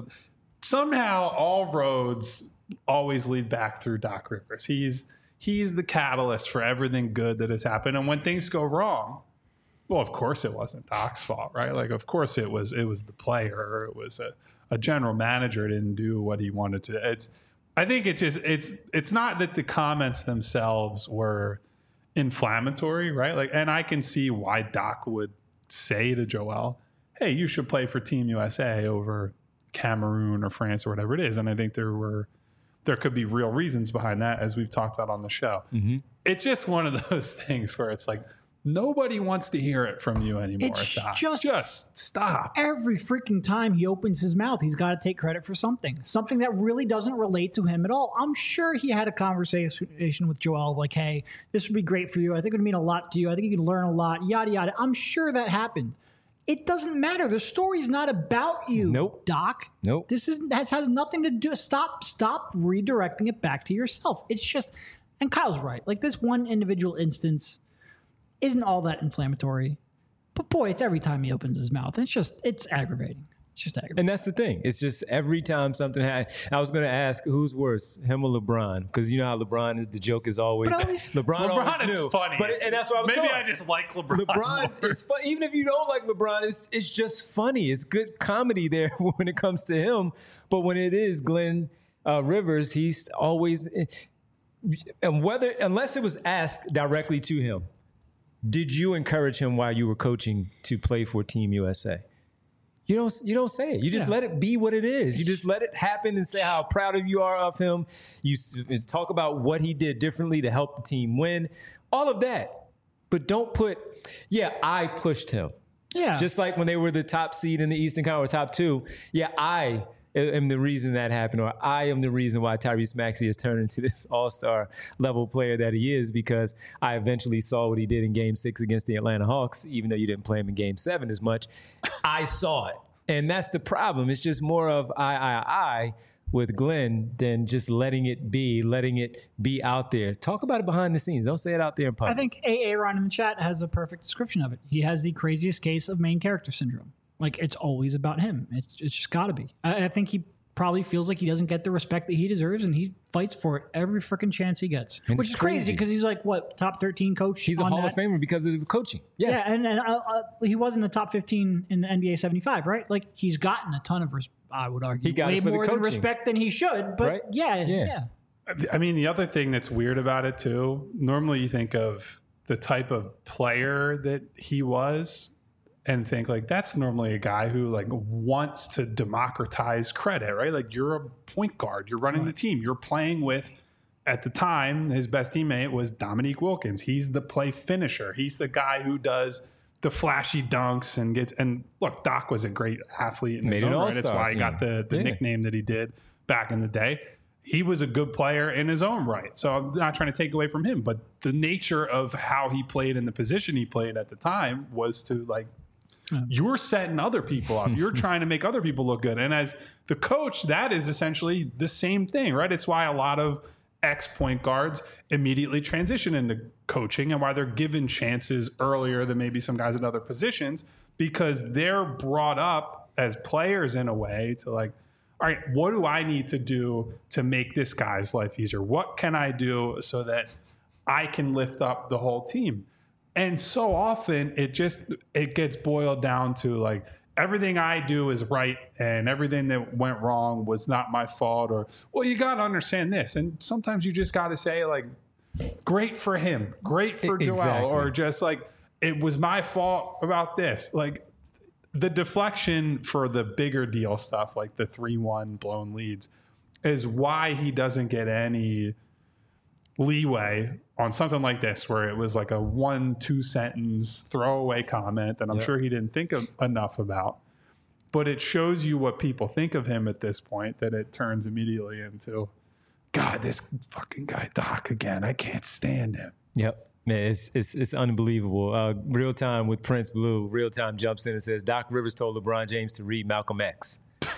somehow all roads always lead back through Doc Rivers. He's the catalyst for everything good that has happened. And when things go wrong, well, of course it wasn't Doc's fault, right? Like, of course it was the player, or it was a general manager didn't do what he wanted to. I think it's not that the comments themselves were inflammatory, right? Like, and I can see why Doc would say to Joel, hey, you should play for Team USA over Cameroon or France or whatever it is. And I think there could be real reasons behind that, as we've talked about on the show. It's just one of those things where it's like, nobody wants to hear it from you anymore. It's Doc. just stop. Every freaking time he opens his mouth, he's got to take credit for something that really doesn't relate to him at all. I'm sure he had a conversation with Joel like, hey, this would be great for you. I think it would mean a lot to you. I think you can learn a lot, yada, yada. I'm sure that happened. It doesn't matter. The story's not about you, Doc. Nope. This has nothing to do. Stop redirecting it back to yourself. It's just, and Kyle's right. Like, this one individual instance isn't all that inflammatory, but boy, it's every time he opens his mouth. It's aggravating. It's just aggravating. And that's the thing. It's just every time something happens. I was going to ask who's worse, him or LeBron? Because you know how LeBron is. The joke is always LeBron always is knew. funny. And that's what I was Maybe going. I just like LeBron. LeBron is fun. Even if you don't like LeBron, it's just funny. It's good comedy there when it comes to him. But when it is Glenn Rivers, he's always, and unless it was asked directly to him, did you encourage him while you were coaching to play for Team USA? You don't say it. You just let it be what it is. You just let it happen and say how proud of you are of him. You talk about what he did differently to help the team win. All of that. But don't put, I pushed him. Yeah. Just like when they were the top seed in the Eastern Conference, top two. Yeah, I am the reason that happened, or I am the reason why Tyrese Maxey has turned into this all-star level player that he is, because I eventually saw what he did in Game 6 against the Atlanta Hawks, even though you didn't play him in Game 7 as much. I saw it. And that's the problem. It's just more of I with Glenn than just letting it be out there. Talk about it behind the scenes. Don't say it out there in public. I think Aaron in the chat has a perfect description of it. He has the craziest case of main character syndrome. Like, it's always about him. It's just got to be. I think he probably feels like he doesn't get the respect that he deserves, and he fights for it every freaking chance he gets. And which it's is crazy crazy because he's like, what, top 13 coach? He's a Hall of Famer because of the coaching. Yes. Yeah, and he was in the top 15 in the NBA 75, right? Like, he's gotten a ton of, I would argue, He got way it for the more than coaching. respect than he should. But Right? yeah. Yeah. I mean, the other thing that's weird about it too, normally you think of the type of player that he was and think like that's normally a guy who like wants to democratize credit, right? Like you're a point guard, you're running the team, you're playing with, at the time, his best teammate was Dominique Wilkins. He's the play finisher. He's the guy who does the flashy dunks and gets, and look, Doc was a great athlete in his Made an own right. That's all-star why he got the team. Yeah. nickname that he did back in the day. He was a good player in his own right. So I'm not trying to take away from him, but the nature of how he played and the position he played at the time was to like, you're setting other people up. You're trying to make other people look good. And as the coach, that is essentially the same thing, right? It's why a lot of ex-point guards immediately transition into coaching and why they're given chances earlier than maybe some guys in other positions, because they're brought up as players in a way to like, all right, what do I need to do to make this guy's life easier? What can I do so that I can lift up the whole team? And so often it gets boiled down to like, everything I do is right and everything that went wrong was not my fault, or, well, you got to understand this. And sometimes you just got to say like, great for him, great for Joel, Exactly. or just like, it was my fault about this. Like the deflection for the bigger deal stuff, like the 3-1 blown leads, is why he doesn't get any leeway on something like this, where it was like a 1-2 sentence throwaway comment that I'm sure he didn't think of enough about. But it shows you what people think of him at this point, that it turns immediately into, God, this fucking guy Doc again. I can't stand him. Yep. Man, it's unbelievable. Real Time with Prince Blue. Real Time jumps in and says, Doc Rivers told LeBron James to read Malcolm X.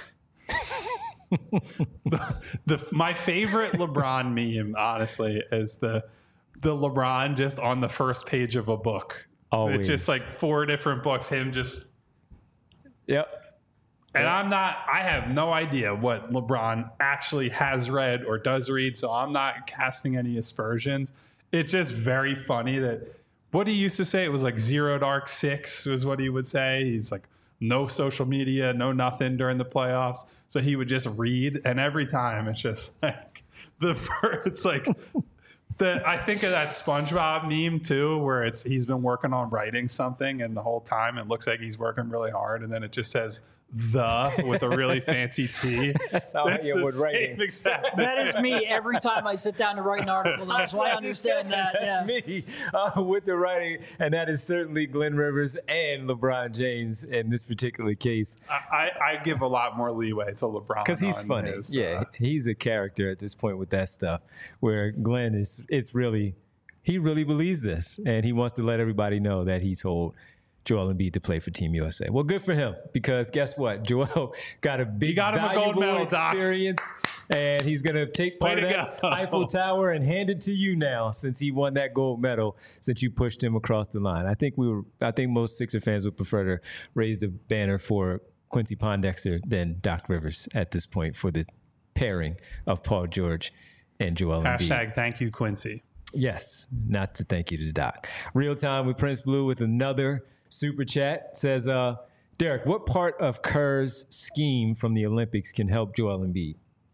My favorite LeBron meme, honestly, is the LeBron just on the first page of a book. Always. It's just like 4 different books, him just. Yep. And I have no idea what LeBron actually has read or does read, so I'm not casting any aspersions. It's just very funny that what he used to say, it was like 0 dark 6 was what he would say. He's like, no social media, no nothing during the playoffs. So he would just read, and every time it's just like it's like I think of that SpongeBob meme too, where he's been working on writing something, and the whole time it looks like he's working really hard, and then it just says with a really fancy T. That's how I am with writing. Exact. That is me every time I sit down to write an article. That's why I understand that. That's me with the writing, and that is certainly Glenn Rivers and LeBron James in this particular case. I give a lot more leeway to LeBron Because he's on funny. his, He's a character at this point with that stuff, where Glenn he really believes this, and he wants to let everybody know that he told Joel Embiid to play for Team USA. Well, good for him, because guess what? Joel got a big, got him a gold valuable medal, Doc. experience, and he's going to take part Way of to that go. Eiffel Tower and hand it to you now, since he won that gold medal, since you pushed him across the line. I think most Sixer fans would prefer to raise the banner for Quincy Pondexter than Doc Rivers at this point for the pairing of Paul George and Joel Embiid. # thank you, Quincy. Yes, not to thank you to Doc. Real Time with Prince Blue with another super chat. Says, Derek, what part of Kerr's scheme from the Olympics can help Joel Embiid?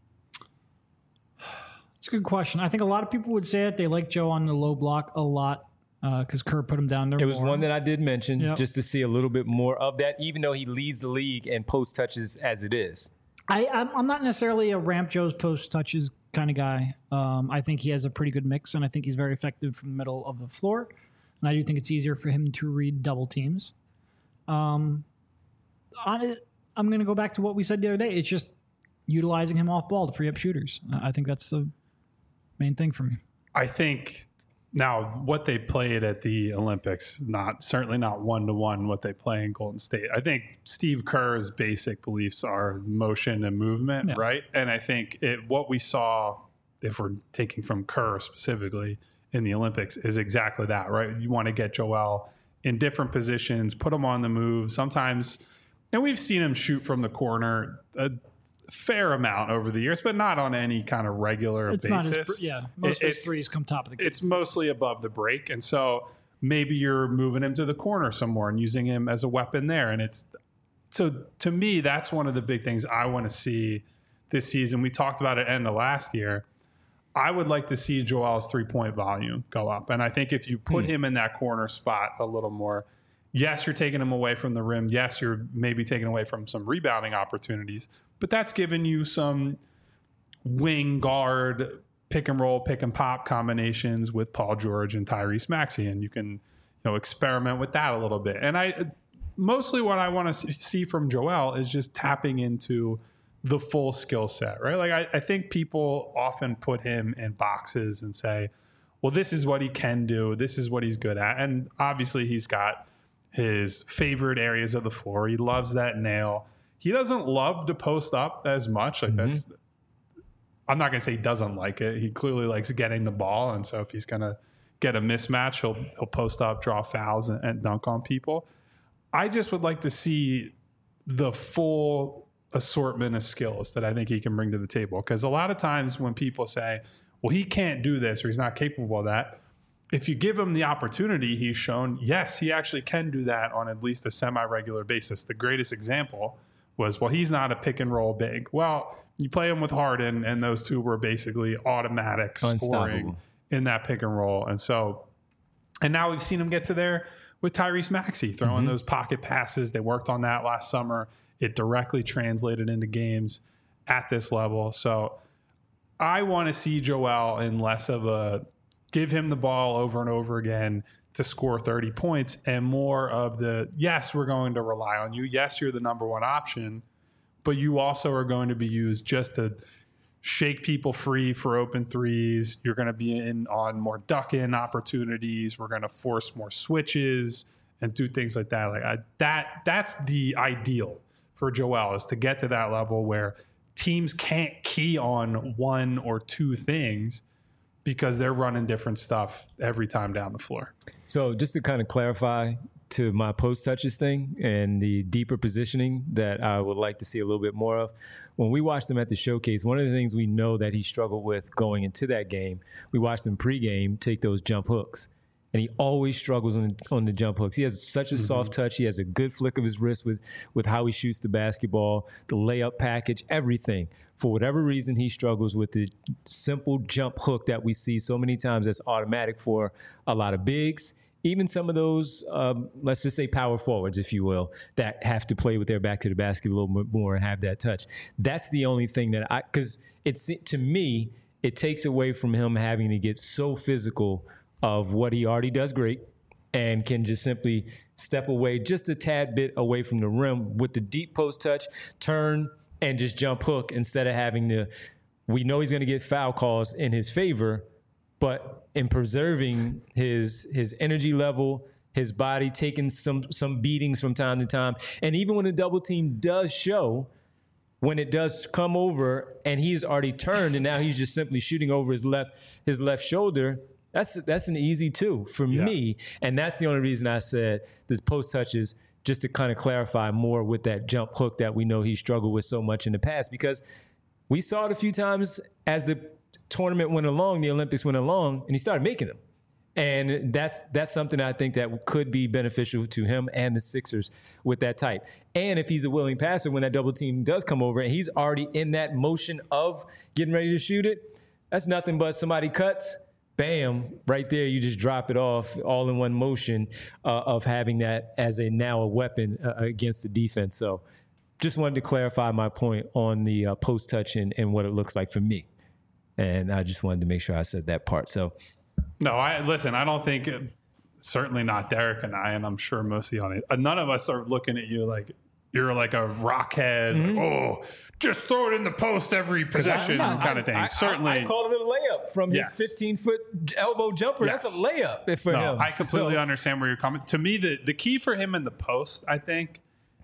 It's a good question. I think a lot of people would say that they like Joe on the low block a lot because Kerr put him down there. It was one that I did mention, Yep. just to see a little bit more of that, even though he leads the league in post touches as it is. I'm not necessarily a ramp Joe's post touches kind of guy. I think he has a pretty good mix, and I think he's very effective from the middle of the floor. And I do think it's easier for him to read double teams. I'm going to go back to what we said the other day. It's just utilizing him off ball to free up shooters. I think that's the main thing for me. I think now what they played at the Olympics, certainly not 1-to-1 what they play in Golden State. I think Steve Kerr's basic beliefs are motion and movement, right? And I think what we saw, if we're taking from Kerr specifically in the Olympics, is exactly that, right? You want to get Joel in different positions, put him on the move. Sometimes, and we've seen him shoot from the corner a fair amount over the years, but not on any kind of regular basis. Most of his threes come top of the game. It's mostly above the break, and so maybe you're moving him to the corner some more and using him as a weapon there. And so to me, that's one of the big things I want to see this season. We talked about it end of last year. I would like to see Joel's 3-point volume go up. And I think if you put him in that corner spot a little more, yes, you're taking him away from the rim. Yes, you're maybe taking away from some rebounding opportunities, but that's given you some wing guard, pick and roll, pick and pop combinations with Paul George and Tyrese Maxey. And you can, experiment with that a little bit. And mostly what I want to see from Joel is just tapping into the full skill set, right? Like I think people often put him in boxes and say, well, this is what he can do. This is what he's good at. And obviously he's got his favorite areas of the floor. He loves that nail. He doesn't love to post up as much. Like I'm not going to say he doesn't like it. He clearly likes getting the ball. And so if he's going to get a mismatch, he'll post up, draw fouls and dunk on people. I just would like to see the full assortment of skills that I think he can bring to the table. Because a lot of times when people say, well, he can't do this or he's not capable of that, if you give him the opportunity, he's shown, yes, he actually can do that on at least a semi-regular basis. The greatest example was, well, he's not a pick and roll big. Well, you play him with Harden, and those two were basically automatic scoring in that pick and roll. And now we've seen him get to there with Tyrese Maxey, throwing those pocket passes. They worked on that last summer. It directly translated into games at this level. So I want to see Joel in less of a give him the ball over and over again to score 30 points and more of the, yes, we're going to rely on you. Yes, you're the number one option, but you also are going to be used just to shake people free for open threes. You're going to be in on more duck-in opportunities. We're going to force more switches and do things like that. That's the ideal for Joel, is to get to that level where teams can't key on one or two things because they're running different stuff every time down the floor. So just to kind of clarify to my post touches thing and the deeper positioning that I would like to see a little bit more of, when we watched him at the showcase, one of the things we know that he struggled with going into that game, we watched him pregame take those jump hooks. And he always struggles on the jump hooks. He has such a soft touch. He has a good flick of his wrist with how he shoots the basketball, the layup package, everything. For whatever reason, he struggles with the simple jump hook that we see so many times that's automatic for a lot of bigs. Even some of those, let's just say power forwards, if you will, that have to play with their back to the basket a little bit more and have that touch. That's the only thing that because to me, it takes away from him having to get so physical of what he already does great and can just simply step away just a tad bit away from the rim with the deep post touch, turn, and just jump hook instead of having to, we know he's going to get foul calls in his favor, but in preserving his energy level, his body, taking some beatings from time to time. And even when the double team does show, when it does come over and he's already turned and now he's just simply shooting over his left shoulder, that's an easy two for me. And that's the only reason I said this post touches, just to kind of clarify more with that jump hook that we know he struggled with so much in the past, because we saw it a few times as the tournament went along, the Olympics went along, and he started making them. And that's something I think that could be beneficial to him and the Sixers with that type. And if he's a willing passer, when that double team does come over and he's already in that motion of getting ready to shoot it, that's nothing but somebody cuts, bam, right there, you just drop it off all in one motion of having that as now a weapon against the defense. So just wanted to clarify my point on the post touch and what it looks like for me. And I just wanted to make sure I said that part. So, no, I don't think, certainly not Derek and I, and I'm sure most of the audience, none of us are looking at you like, you're like a rockhead. Like, oh, just throw it in the post every possession kind of thing. Certainly. I called it a layup from his 15-foot elbow jumper. Yes. That's a layup for him. I completely understand where you're coming. To me, the key for him in the post, I think,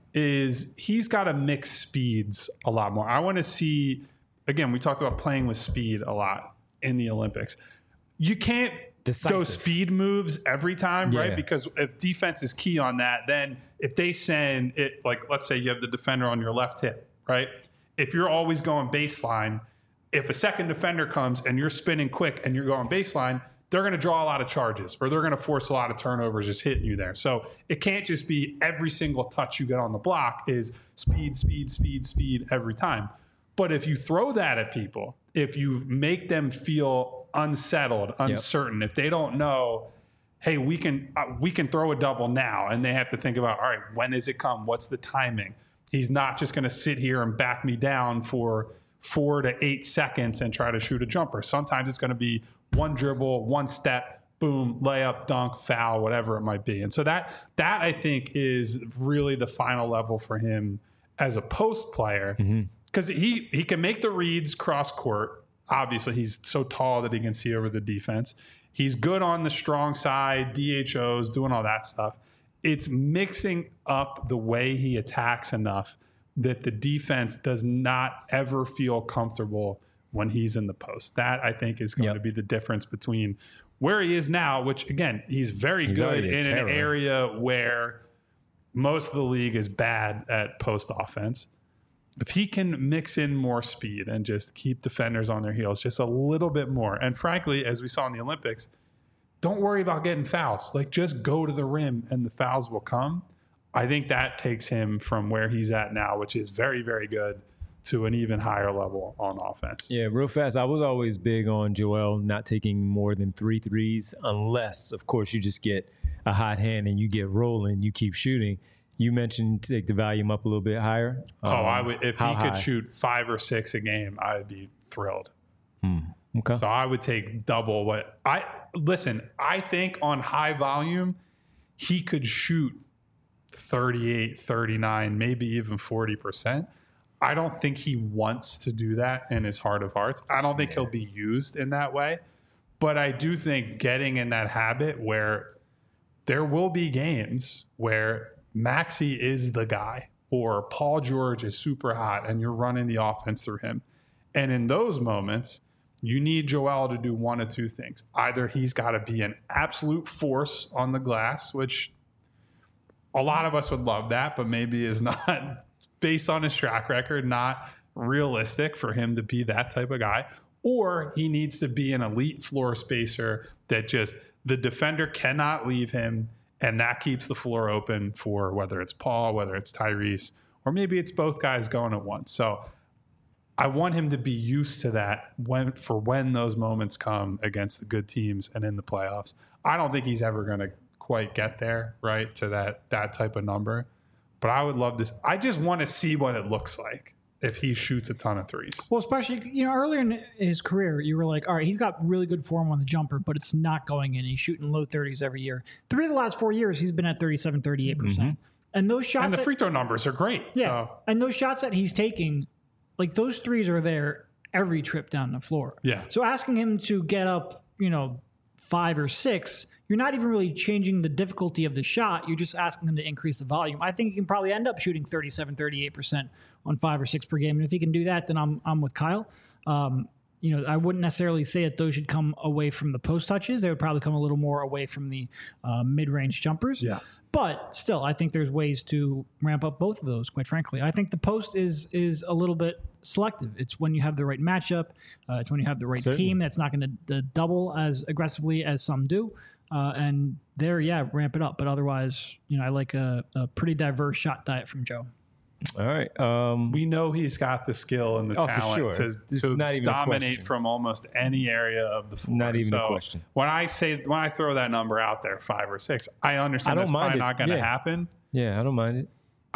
is he's got to mix speeds a lot more. I want to see, again, we talked about playing with speed a lot in the Olympics. You can't go speed moves every time, right? Because if defense is key on that, then if they send it, like let's say you have the defender on your left hip, right? If you're always going baseline, if a second defender comes and you're spinning quick and you're going baseline, they're going to draw a lot of charges or they're going to force a lot of turnovers just hitting you there. So it can't just be every single touch you get on the block is speed, speed, speed, speed every time. But if you throw that at people, if you make them feel unsettled, uncertain, if they don't know, hey, we can throw a double now, and they have to think about, all right, when does it come? What's the timing? He's not just going to sit here and back me down for 4 to 8 seconds and try to shoot a jumper. Sometimes it's going to be one dribble, one step, boom, layup, dunk, foul, whatever it might be. And so that I think is really the final level for him as a post player, because he can make the reads cross court. Obviously, he's so tall that he can see over the defense. He's good on the strong side, DHOs, doing all that stuff. It's mixing up the way he attacks enough that the defense does not ever feel comfortable when he's in the post. That, I think, is going to be the difference between where he is now, which, again, he's very good in an area where most of the league is bad at post offense. If he can mix in more speed and just keep defenders on their heels just a little bit more, and frankly, as we saw in the Olympics, don't worry about getting fouls. Like, just go to the rim and the fouls will come. I think that takes him from where he's at now, which is very, very good, to an even higher level on offense. Yeah, real fast. I was always big on Joel not taking more than 3 threes unless, of course, you just get a hot hand and you get rolling, you keep shooting. You mentioned take the volume up a little bit higher. I would. If he could shoot 5 or 6 a game, I'd be thrilled. Okay. So I would take double what I think on high volume, he could shoot 38, 39, maybe even 40%. I don't think he wants to do that in his heart of hearts. I don't think he'll be used in that way. But I do think getting in that habit where there will be games where Maxey is the guy or Paul George is super hot and you're running the offense through him. And in those moments, you need Joel to do one of two things. Either he's got to be an absolute force on the glass, which a lot of us would love that, but maybe is not, based on his track record, not realistic for him to be that type of guy. Or he needs to be an elite floor spacer that just the defender cannot leave him, and that keeps the floor open for whether it's Paul, whether it's Tyrese, or maybe it's both guys going at once. So I want him to be used to that when those moments come against the good teams and in the playoffs. I don't think he's ever going to quite get there, right, to that type of number. But I would love this. I just want to see what it looks like if he shoots a ton of threes. Well, especially, earlier in his career, you were like, all right, he's got really good form on the jumper, but it's not going in. He's shooting low 30s every year. 3 of the last 4 years, he's been at 37, 38%. And those shots... And the free throw numbers are great. Yeah, so. And those shots that he's taking, like those threes are there every trip down the floor. Yeah. So asking him to get up, 5 or 6, you're not even really changing the difficulty of the shot. You're just asking him to increase the volume. I think he can probably end up shooting 37, 38% on 5 or 6 per game. And if he can do that, then I'm with Kyle. I wouldn't necessarily say that those should come away from the post touches. They would probably come a little more away from the mid-range jumpers. Yeah. But still, I think there's ways to ramp up both of those, quite frankly. I think the post is a little bit selective. It's when you have the right matchup. It's when you have the right team that's not going to double as aggressively as some do. And there, ramp it up. But otherwise, I like a pretty diverse shot diet from Joe. All right. We know he's got the skill and the talent to not even dominate from almost any area of the floor. Not even a question. When I throw that number out there, 5 or 6, I understand that's probably not going to happen. Yeah, I don't mind it.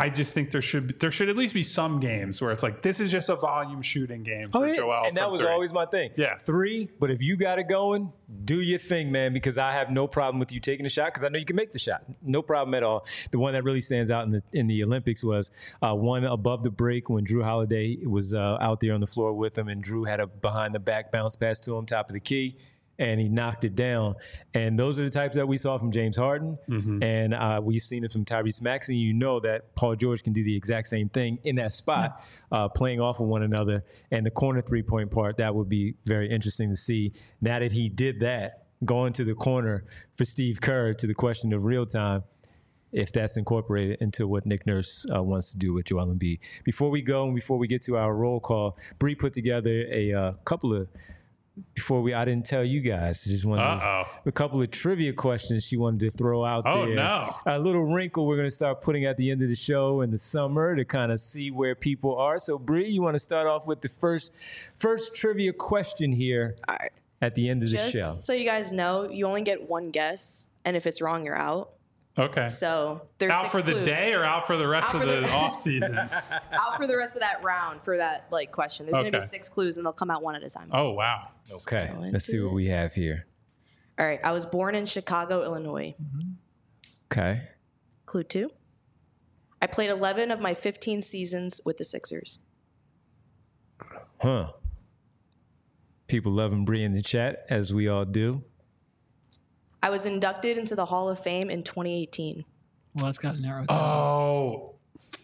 I just think there should at least be some games where it's like, this is just a volume shooting game for Joel. And that was always my thing. Yeah. 3, but if you got it going, do your thing, man, because I have no problem with you taking a shot because I know you can make the shot. No problem at all. The one that really stands out in the Olympics was one above the break when Drew Holiday was out there on the floor with him, and Drew had a behind-the-back bounce pass to him, top of the key, and he knocked it down. And those are the types that we saw from James Harden, and we've seen it from Tyrese Maxey. You know that Paul George can do the exact same thing in that spot, playing off of one another. And the corner three-point part, that would be very interesting to see. Now that he did that, going to the corner for Steve Kerr, to the question of real time, if that's incorporated into what Nick Nurse wants to do with Joel Embiid. Before we go and before we get to our roll call, Bree put together a couple of, I didn't tell you guys, just wanted a couple of trivia questions she wanted to throw out there. Oh, no. A little wrinkle we're going to start putting at the end of the show in the summer to kind of see where people are. So, Bree, you want to start off with the first trivia question here at the end of the show. Just so you guys know, you only get one guess, and if it's wrong, you're out. Okay. So there's out 6 for the clues. day or out for the rest of the off season? Out for the rest of that round for that question. There's going to be 6 clues, and they'll come out one at a time. Oh, wow. Okay. Let's see what we have here. All right. I was born in Chicago, Illinois. Okay. Clue 2. I played 11 of my 15 seasons with the Sixers. Huh. People loving Bree in the chat, as we all do. I was inducted into the Hall of Fame in 2018. Well, that's got narrowed down. Oh.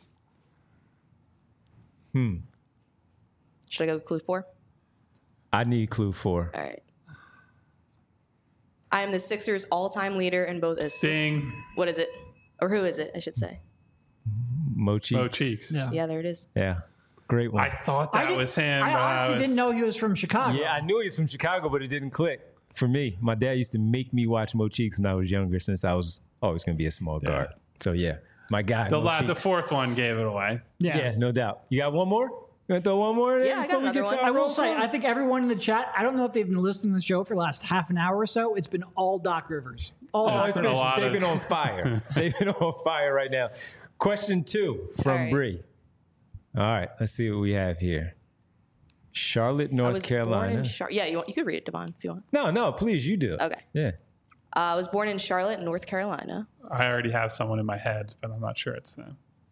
Should I go with clue 4? I need clue 4. All right. I am the Sixers' all-time leader in both assists. Ding. What is it? Or who is it, I should say. Mo Cheeks. Mo Cheeks. Yeah. Yeah, there it is. Yeah. Great one. I thought that was him. I but honestly didn't know he was from Chicago. Yeah, I knew he was from Chicago, but it didn't click for me. My dad used to make me watch Mo Cheeks when I was younger, since I was always going to be a small guard. So yeah, my guy. The fourth one gave it away. Yeah, no doubt. You got one more? You want to throw one more in? Yeah, I got another one. I will say, I think everyone in the chat, I don't know if they've been listening to the show for the last half an hour or so. It's been all Doc Rivers. It's been a lot They've been on fire. They've been on fire right now. Question 2 from All right. Bree. All right, let's see what we have here. Charlotte, North Carolina. Yeah, you could read it, Devon, if you want. No, please, you do it. Okay. Yeah. I was born in Charlotte, North Carolina. I already have someone in my head, but I'm not sure it's them.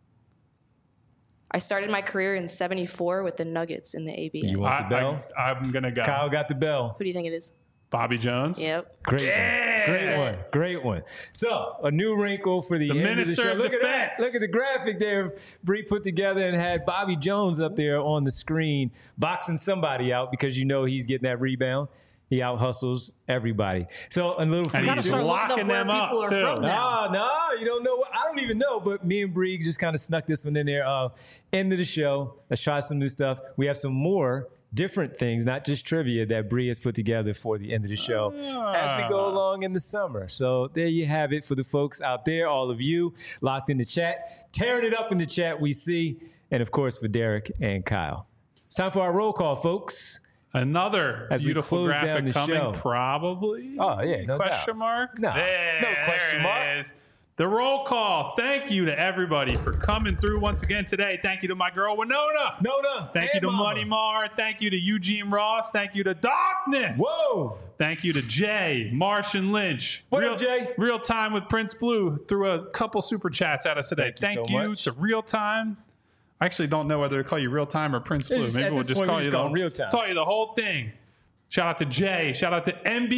I started my career in '74 with the Nuggets in the ABA. You want the bell? I'm going to go. Kyle got the bell. Who do you think it is? Bobby Jones. Yep. Great one. Great one. Great one. So, a new wrinkle for the end Minister of the show. of Look at Defense. that. Look at the graphic there Bree put together and had Bobby Jones up there on the screen boxing somebody out because you know he's getting that rebound. He out hustles everybody. So, a little And free he's start looking locking up where them up, people are too. from now. No, you don't know. I don't even know, but me and Bree just kind of snuck this one in there. End of the show. Let's try some new stuff. We have some more different things, not just trivia, that Bree has put together for the end of the show as we go along in the summer. So there you have it for the folks out there, all of you locked in the chat, tearing it up in the chat we see, and of course for Derek and Kyle. It's time for our roll call, folks. Another As we beautiful close down graphic the coming, show. probably. Oh, yeah, no Question doubt. mark? No, There, no question there mark. it is. The roll call. Thank you to everybody for coming through once again today. Thank you to my girl, Winona. Nona. Thank you and to Mama. Money Mar. Thank you to Eugene Ross. Thank you to Darkness. Whoa. Thank you to Jay, Martian Lynch. What up, Jay? Real Time with Prince Blue threw a couple super chats at us today. Thank you so much. to Real Time. I actually don't know whether to call you Real Time or Prince Blue. just- Maybe at we'll this just point, call we you just call him Real Time. Call you the whole thing. Shout out to Jay. Shout out to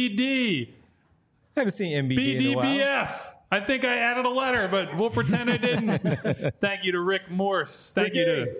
MBD. I haven't seen MBD in a while. BDBF. I think I added a letter, but we'll pretend I didn't. Thank you to Rick Morse. Thank you to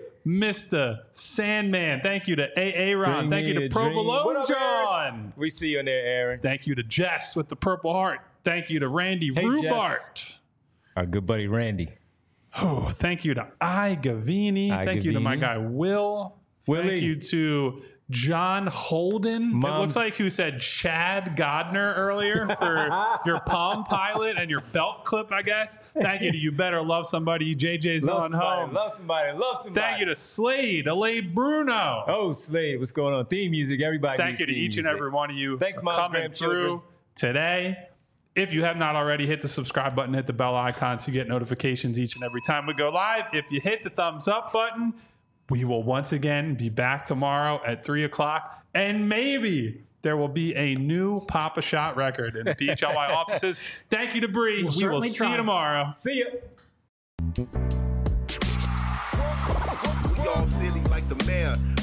Mr. Sandman. Thank you to AA Ron. Bring Thank you me to a dream. What Provolone up, John. We see you in there, Aaron. Thank you to Jess with the Purple Heart. Thank you to Randy Hey, Rubart. Our good buddy Randy. Oh, thank you to I Gavini. Thank you to my Gavini. guy Will. Willie. Thank you to John Holden. It Mom's- looks like who said Chad Godner earlier for your Palm Pilot and your belt clip, I guess. Thank you to You Better Love Somebody. JJ's Love on somebody, home. love somebody, love somebody. Thank you to Slade, Elaine Bruno. Oh, Slade, what's going on? Theme music, everybody. Thank needs you to theme each and music. every one of you Thanks, for moms, coming grandchildren. through today. If you have not already, hit the subscribe button, hit the bell icon so you get notifications each and every time we go live. If you hit the thumbs up button, we will once again be back tomorrow at 3 o'clock. And maybe there will be a new Papa Shot record in the PHLY offices. Thank you to Bree. We will see you tomorrow. See ya. We all silly like the mayor.